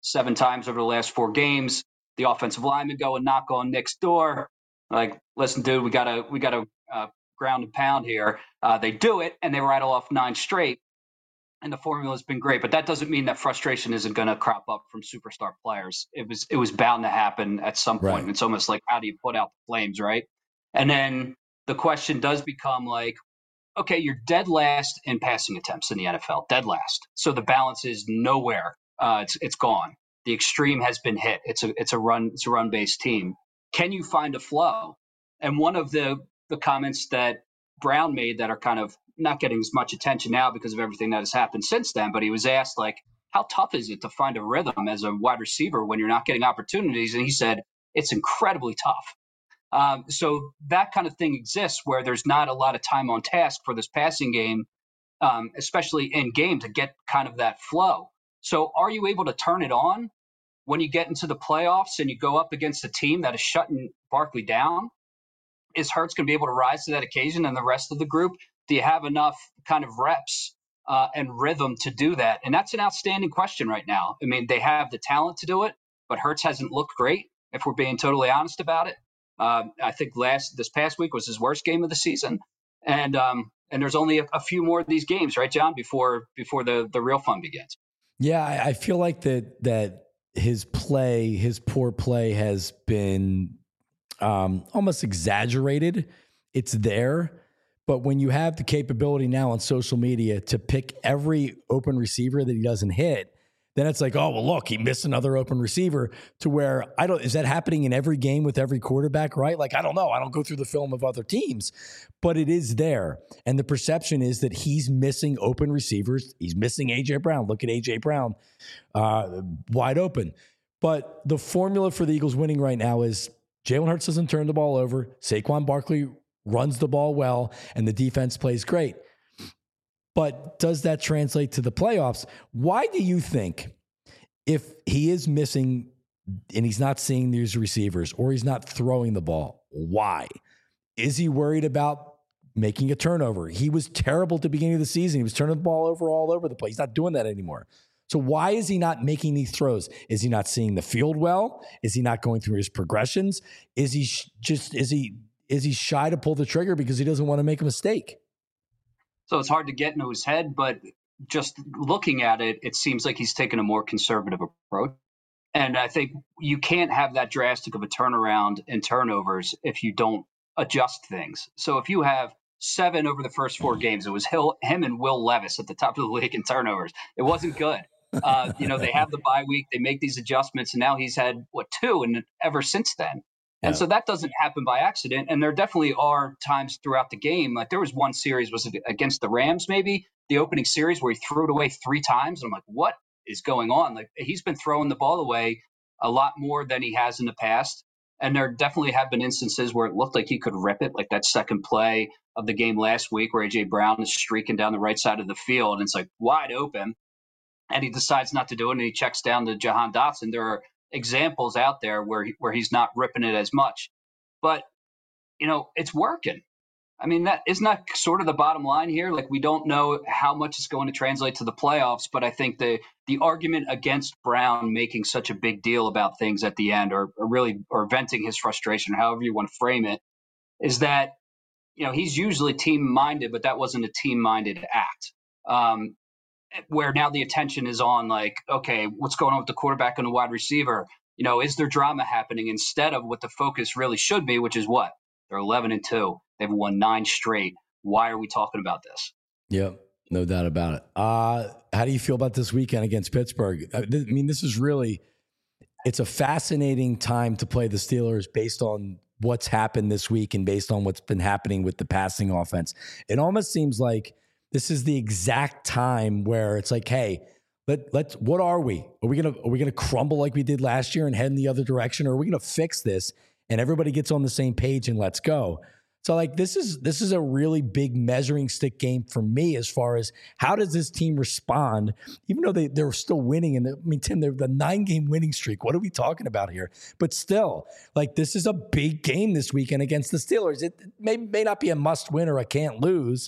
7 times over the last 4 games. The offensive linemen go and knock on Nick's door. Like, listen, dude, we gotta ground and pound here. They do it, and they rattle off 9 straight. And the formula has been great, but that doesn't mean that frustration isn't going to crop up from superstar players. It was bound to happen at some point. Right. It's almost like, how do you put out the flames, right? And then the question does become like, okay, you're dead last in passing attempts in the NFL, dead last. So the balance is nowhere. It's gone. The extreme has been hit. It's a run based team. Can you find a flow? And one of the comments that Brown made that are kind of not getting as much attention now because of everything that has happened since then, but he was asked, like, how tough is it to find a rhythm as a wide receiver when you're not getting opportunities? And he said, it's incredibly tough. So that kind of thing exists where there's not a lot of time on task for this passing game, especially in game, to get kind of that flow. So are you able to turn it on when you get into the playoffs and you go up against a team that is shutting Barkley down? Is Hurts going to be able to rise to that occasion and the rest of the group? Do you have enough kind of reps and rhythm to do that? And that's an outstanding question right now. I mean, they have the talent to do it, but Hurts hasn't looked great, if we're being totally honest about it. I think this past week was his worst game of the season. And there's only a few more of these games, right, John, before the real fun begins. Yeah, I feel like that his poor play has been almost exaggerated. It's there. But when you have the capability now on social media to pick every open receiver that he doesn't hit, then it's like, oh, well, look, he missed another open receiver, to where is that happening in every game with every quarterback, right? Like, I don't know. I don't go through the film of other teams, but it is there. And the perception is that he's missing open receivers. He's missing A.J. Brown. Look at A.J. Brown, wide open. But the formula for the Eagles winning right now is Jalen Hurts doesn't turn the ball over. Saquon Barkley runs the ball well, and the defense plays great. But does that translate to the playoffs? Why do you think, if he is missing and he's not seeing these receivers or he's not throwing the ball, why? Is he worried about making a turnover? He was terrible at the beginning of the season. He was turning the ball over all over the place. He's not doing that anymore. So why is he not making these throws? Is he not seeing the field well? Is he not going through his progressions? Is he shy to pull the trigger because he doesn't want to make a mistake? So it's hard to get into his head, but just looking at it, it seems like he's taken a more conservative approach. And I think you can't have that drastic of a turnaround in turnovers if you don't adjust things. So if you have 7 over the first 4 games, it was him and Will Levis at the top of the league in turnovers. It wasn't good. They have the bye week, they make these adjustments, and now he's had 2 and ever since then. And so that doesn't happen by accident. And there definitely are times throughout the game. Like, there was one series, was it against the Rams, maybe the opening series, where he threw it away 3 times. And I'm like, what is going on? Like, he's been throwing the ball away a lot more than he has in the past. And there definitely have been instances where it looked like he could rip it, like that second play of the game last week where A.J. Brown is streaking down the right side of the field and it's like wide open. And he decides not to do it, and he checks down to Jahan Dotson. There are examples out there where he's not ripping it as much. But, it's working. I mean, that isn't that sort of the bottom line here. Like, we don't know how much it's going to translate to the playoffs, but I think the argument against Brown making such a big deal about things at the end, or venting his frustration, however you want to frame it, is that, he's usually team-minded, but that wasn't a team-minded act. Where now the attention is on, like, okay, what's going on with the quarterback and the wide receiver? Is there drama happening, instead of what the focus really should be, which is what? They're 11-2. They've won 9 straight. Why are we talking about this? Yep, no doubt about it. How do you feel about this weekend against Pittsburgh? I mean, this is really, it's a fascinating time to play the Steelers based on what's happened this week and based on what's been happening with the passing offense. It almost seems like this is the exact time where it's like, hey, let's what are we? Are we gonna crumble like we did last year and head in the other direction, or are we gonna fix this and everybody gets on the same page and let's go? So, like, this is a really big measuring stick game for me as far as how does this team respond, even though they're still winning. And Tim, they're the 9-game winning streak. What are we talking about here? But still, like, this is a big game this weekend against the Steelers. It may not be a must win or a can't lose,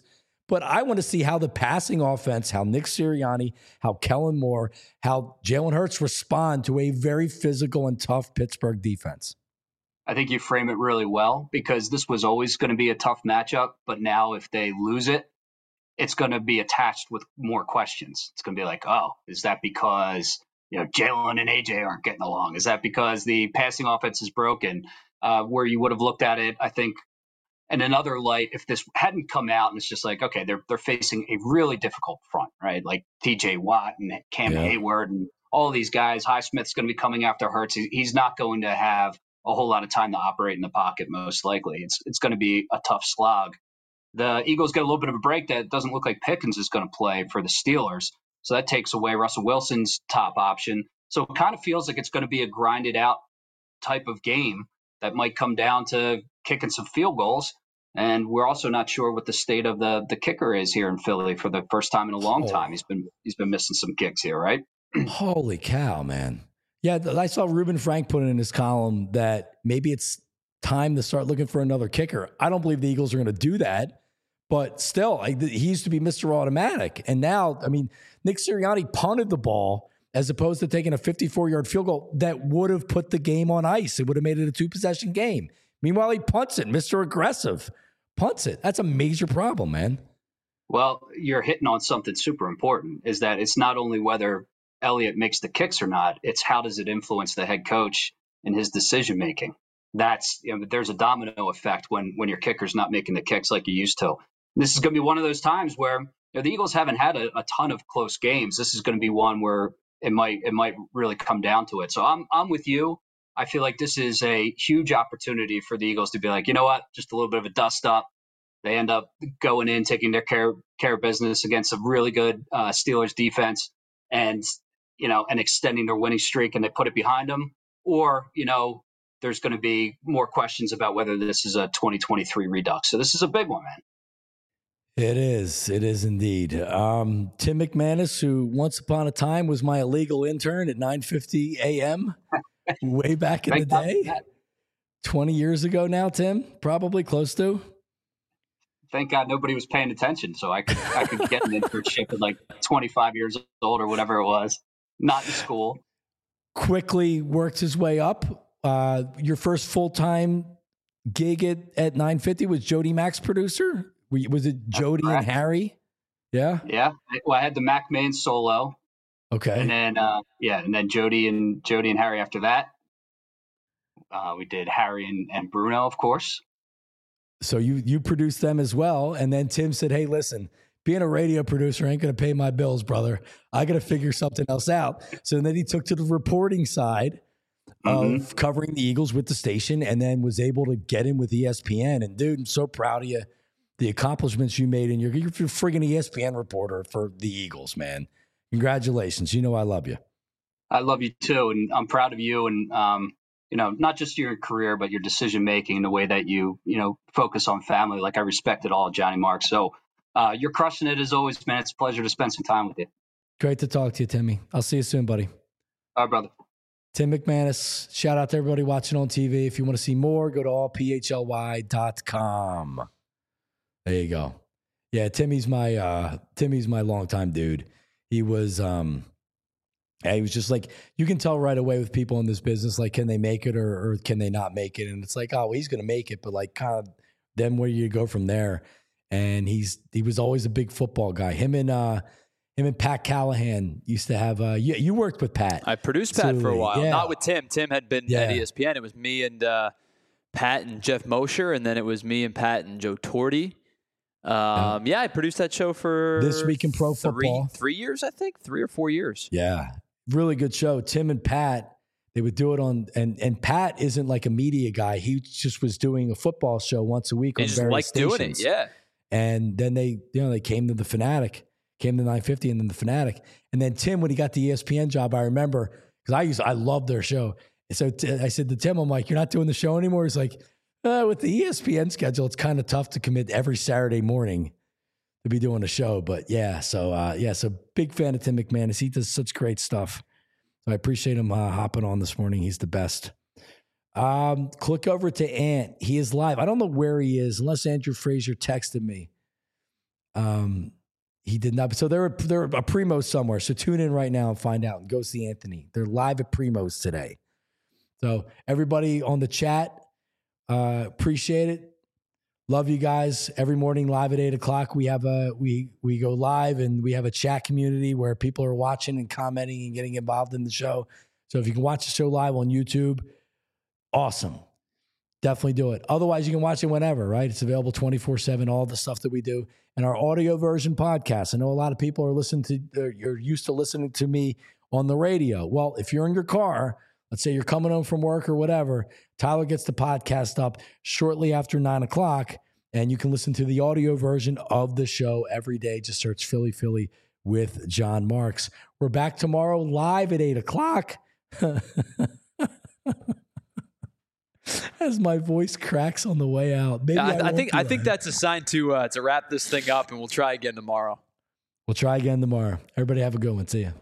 But I want to see how the passing offense, how Nick Sirianni, how Kellen Moore, how Jalen Hurts respond to a very physical and tough Pittsburgh defense. I think you frame it really well, because this was always going to be a tough matchup. But now if they lose it, it's going to be attached with more questions. It's going to be like, oh, is that because Jalen and AJ aren't getting along? Is that because the passing offense is broken? Where you would have looked at it, I think, in another light, if this hadn't come out and it's just like, okay, they're facing a really difficult front, right? Like TJ Watt and Cam Hayward and all these guys. Highsmith's going to be coming after Hurts. He's not going to have a whole lot of time to operate in the pocket, most likely. It's going to be a tough slog. The Eagles get a little bit of a break that doesn't look like Pickens is going to play for the Steelers. So that takes away Russell Wilson's top option. So it kind of feels like it's going to be a grinded out type of game that might come down to kicking some field goals. And we're also not sure what the state of the kicker is here in Philly for the first time in a long time. He's been missing some kicks here, right? Holy cow, man. Yeah, I saw Reuben Frank put in his column that maybe it's time to start looking for another kicker. I don't believe the Eagles are going to do that, but still, he used to be Mr. Automatic. And now, I mean, Nick Sirianni punted the ball as opposed to taking a 54-yard field goal that would have put the game on ice. It would have made it a 2-possession game. Meanwhile, he punts it. Mr. Aggressive punts it. That's a major problem, man. Well, you're hitting on something super important, is that it's not only whether Elliott makes the kicks or not, it's how does it influence the head coach and his decision-making. That's, there's a domino effect when your kicker's not making the kicks like you used to. And this is going to be one of those times where the Eagles haven't had a ton of close games. This is going to be one where it might really come down to it. So I'm with you. I feel like this is a huge opportunity for the Eagles to be like, you know what, just a little bit of a dust up. They end up going in, taking their care of business against a really good Steelers defense, and extending their winning streak, and they put it behind them. Or there's going to be more questions about whether this is a 2023 redux. So this is a big one, man. It is indeed. Tim McManus, who once upon a time was my illegal intern at 9:50 a.m. way back in the day, 20 years ago now, Tim, probably close to. Thank God nobody was paying attention, so I could get an internship at like 25 years old or whatever it was, not in school. Quickly worked his way up. Your first full-time gig at 950 was Jody Mac's producer? Was it Jody and Harry? Yeah? Yeah. Well, I had the Mac main solo. Okay. And then Jody and Harry after that. We did Harry and Bruno, of course. So you produced them as well. And then Tim said, hey, listen, being a radio producer ain't going to pay my bills, brother. I got to figure something else out. So then he took to the reporting side of covering the Eagles with the station, and then was able to get in with ESPN. And dude, I'm so proud of you. The accomplishments you made, and you're friggin' ESPN reporter for the Eagles, man. Congratulations. You know I love you. I love you too, and I'm proud of you, and not just your career, but your decision making and the way that you focus on family. Like, I respect it all, Johnny Mark. So you're crushing it as always, man. It's a pleasure to spend some time with you. Great to talk to you, Timmy. I'll see you soon, buddy. All right, brother. Tim McManus. Shout out to everybody watching on TV. If you want to see more, go to allphly.com. There you go. Yeah, Timmy's my longtime dude. He was he was just like, you can tell right away with people in this business, like, can they make it or can they not make it? And it's like, oh, well, he's going to make it, but like, kind of then where you go from there. And he was always a big football guy. Him and Pat Callahan used to have. You worked with Pat. I produced Pat for a while, yeah. Not with Tim. Tim had been at ESPN. It was me and Pat and Jeff Mosher, and then it was me and Pat and Joe Torti. I produced that show for This Week in Pro Football. 3 years, I think, 3 or 4 years. Yeah, really good show. Tim and Pat, they would do it on, and Pat isn't like a media guy. He just was doing a football show once a week on various stations. Doing it, yeah. And then they came to the Fanatic, came to 950, and then the Fanatic. And then Tim, when he got the ESPN job, I remember, because I loved their show. And so I said to Tim, I'm like, you're not doing the show anymore? He's like, with the ESPN schedule, it's kind of tough to commit every Saturday morning to be doing a show. But so big fan of Tim McManus. He does such great stuff. So I appreciate him hopping on this morning. He's the best. Click over to Ant. He is live. I don't know where he is, unless Andrew Frazier texted me. He did not. So they're a Primo's somewhere. So tune in right now and find out and go see Anthony. They're live at Primo's today. So everybody on the chat, appreciate it. Love you guys. Every morning live at 8:00. We have we go live and we have a chat community where people are watching and commenting and getting involved in the show. So if you can watch the show live on YouTube, awesome. Definitely do it. Otherwise, you can watch it whenever, right? It's available 24/7, all the stuff that we do. And our audio version podcast. I know a lot of people are you're used to listening to me on the radio. Well, if you're in your car, let's say you're coming home from work or whatever, Tyler gets the podcast up shortly after 9:00, and you can listen to the audio version of the show every day. Just search Philly Philly with John Marks. We're back tomorrow live at 8:00. As my voice cracks on the way out. Maybe I think that's a sign to wrap this thing up, and we'll try again tomorrow. We'll try again tomorrow. Everybody have a good one. See ya.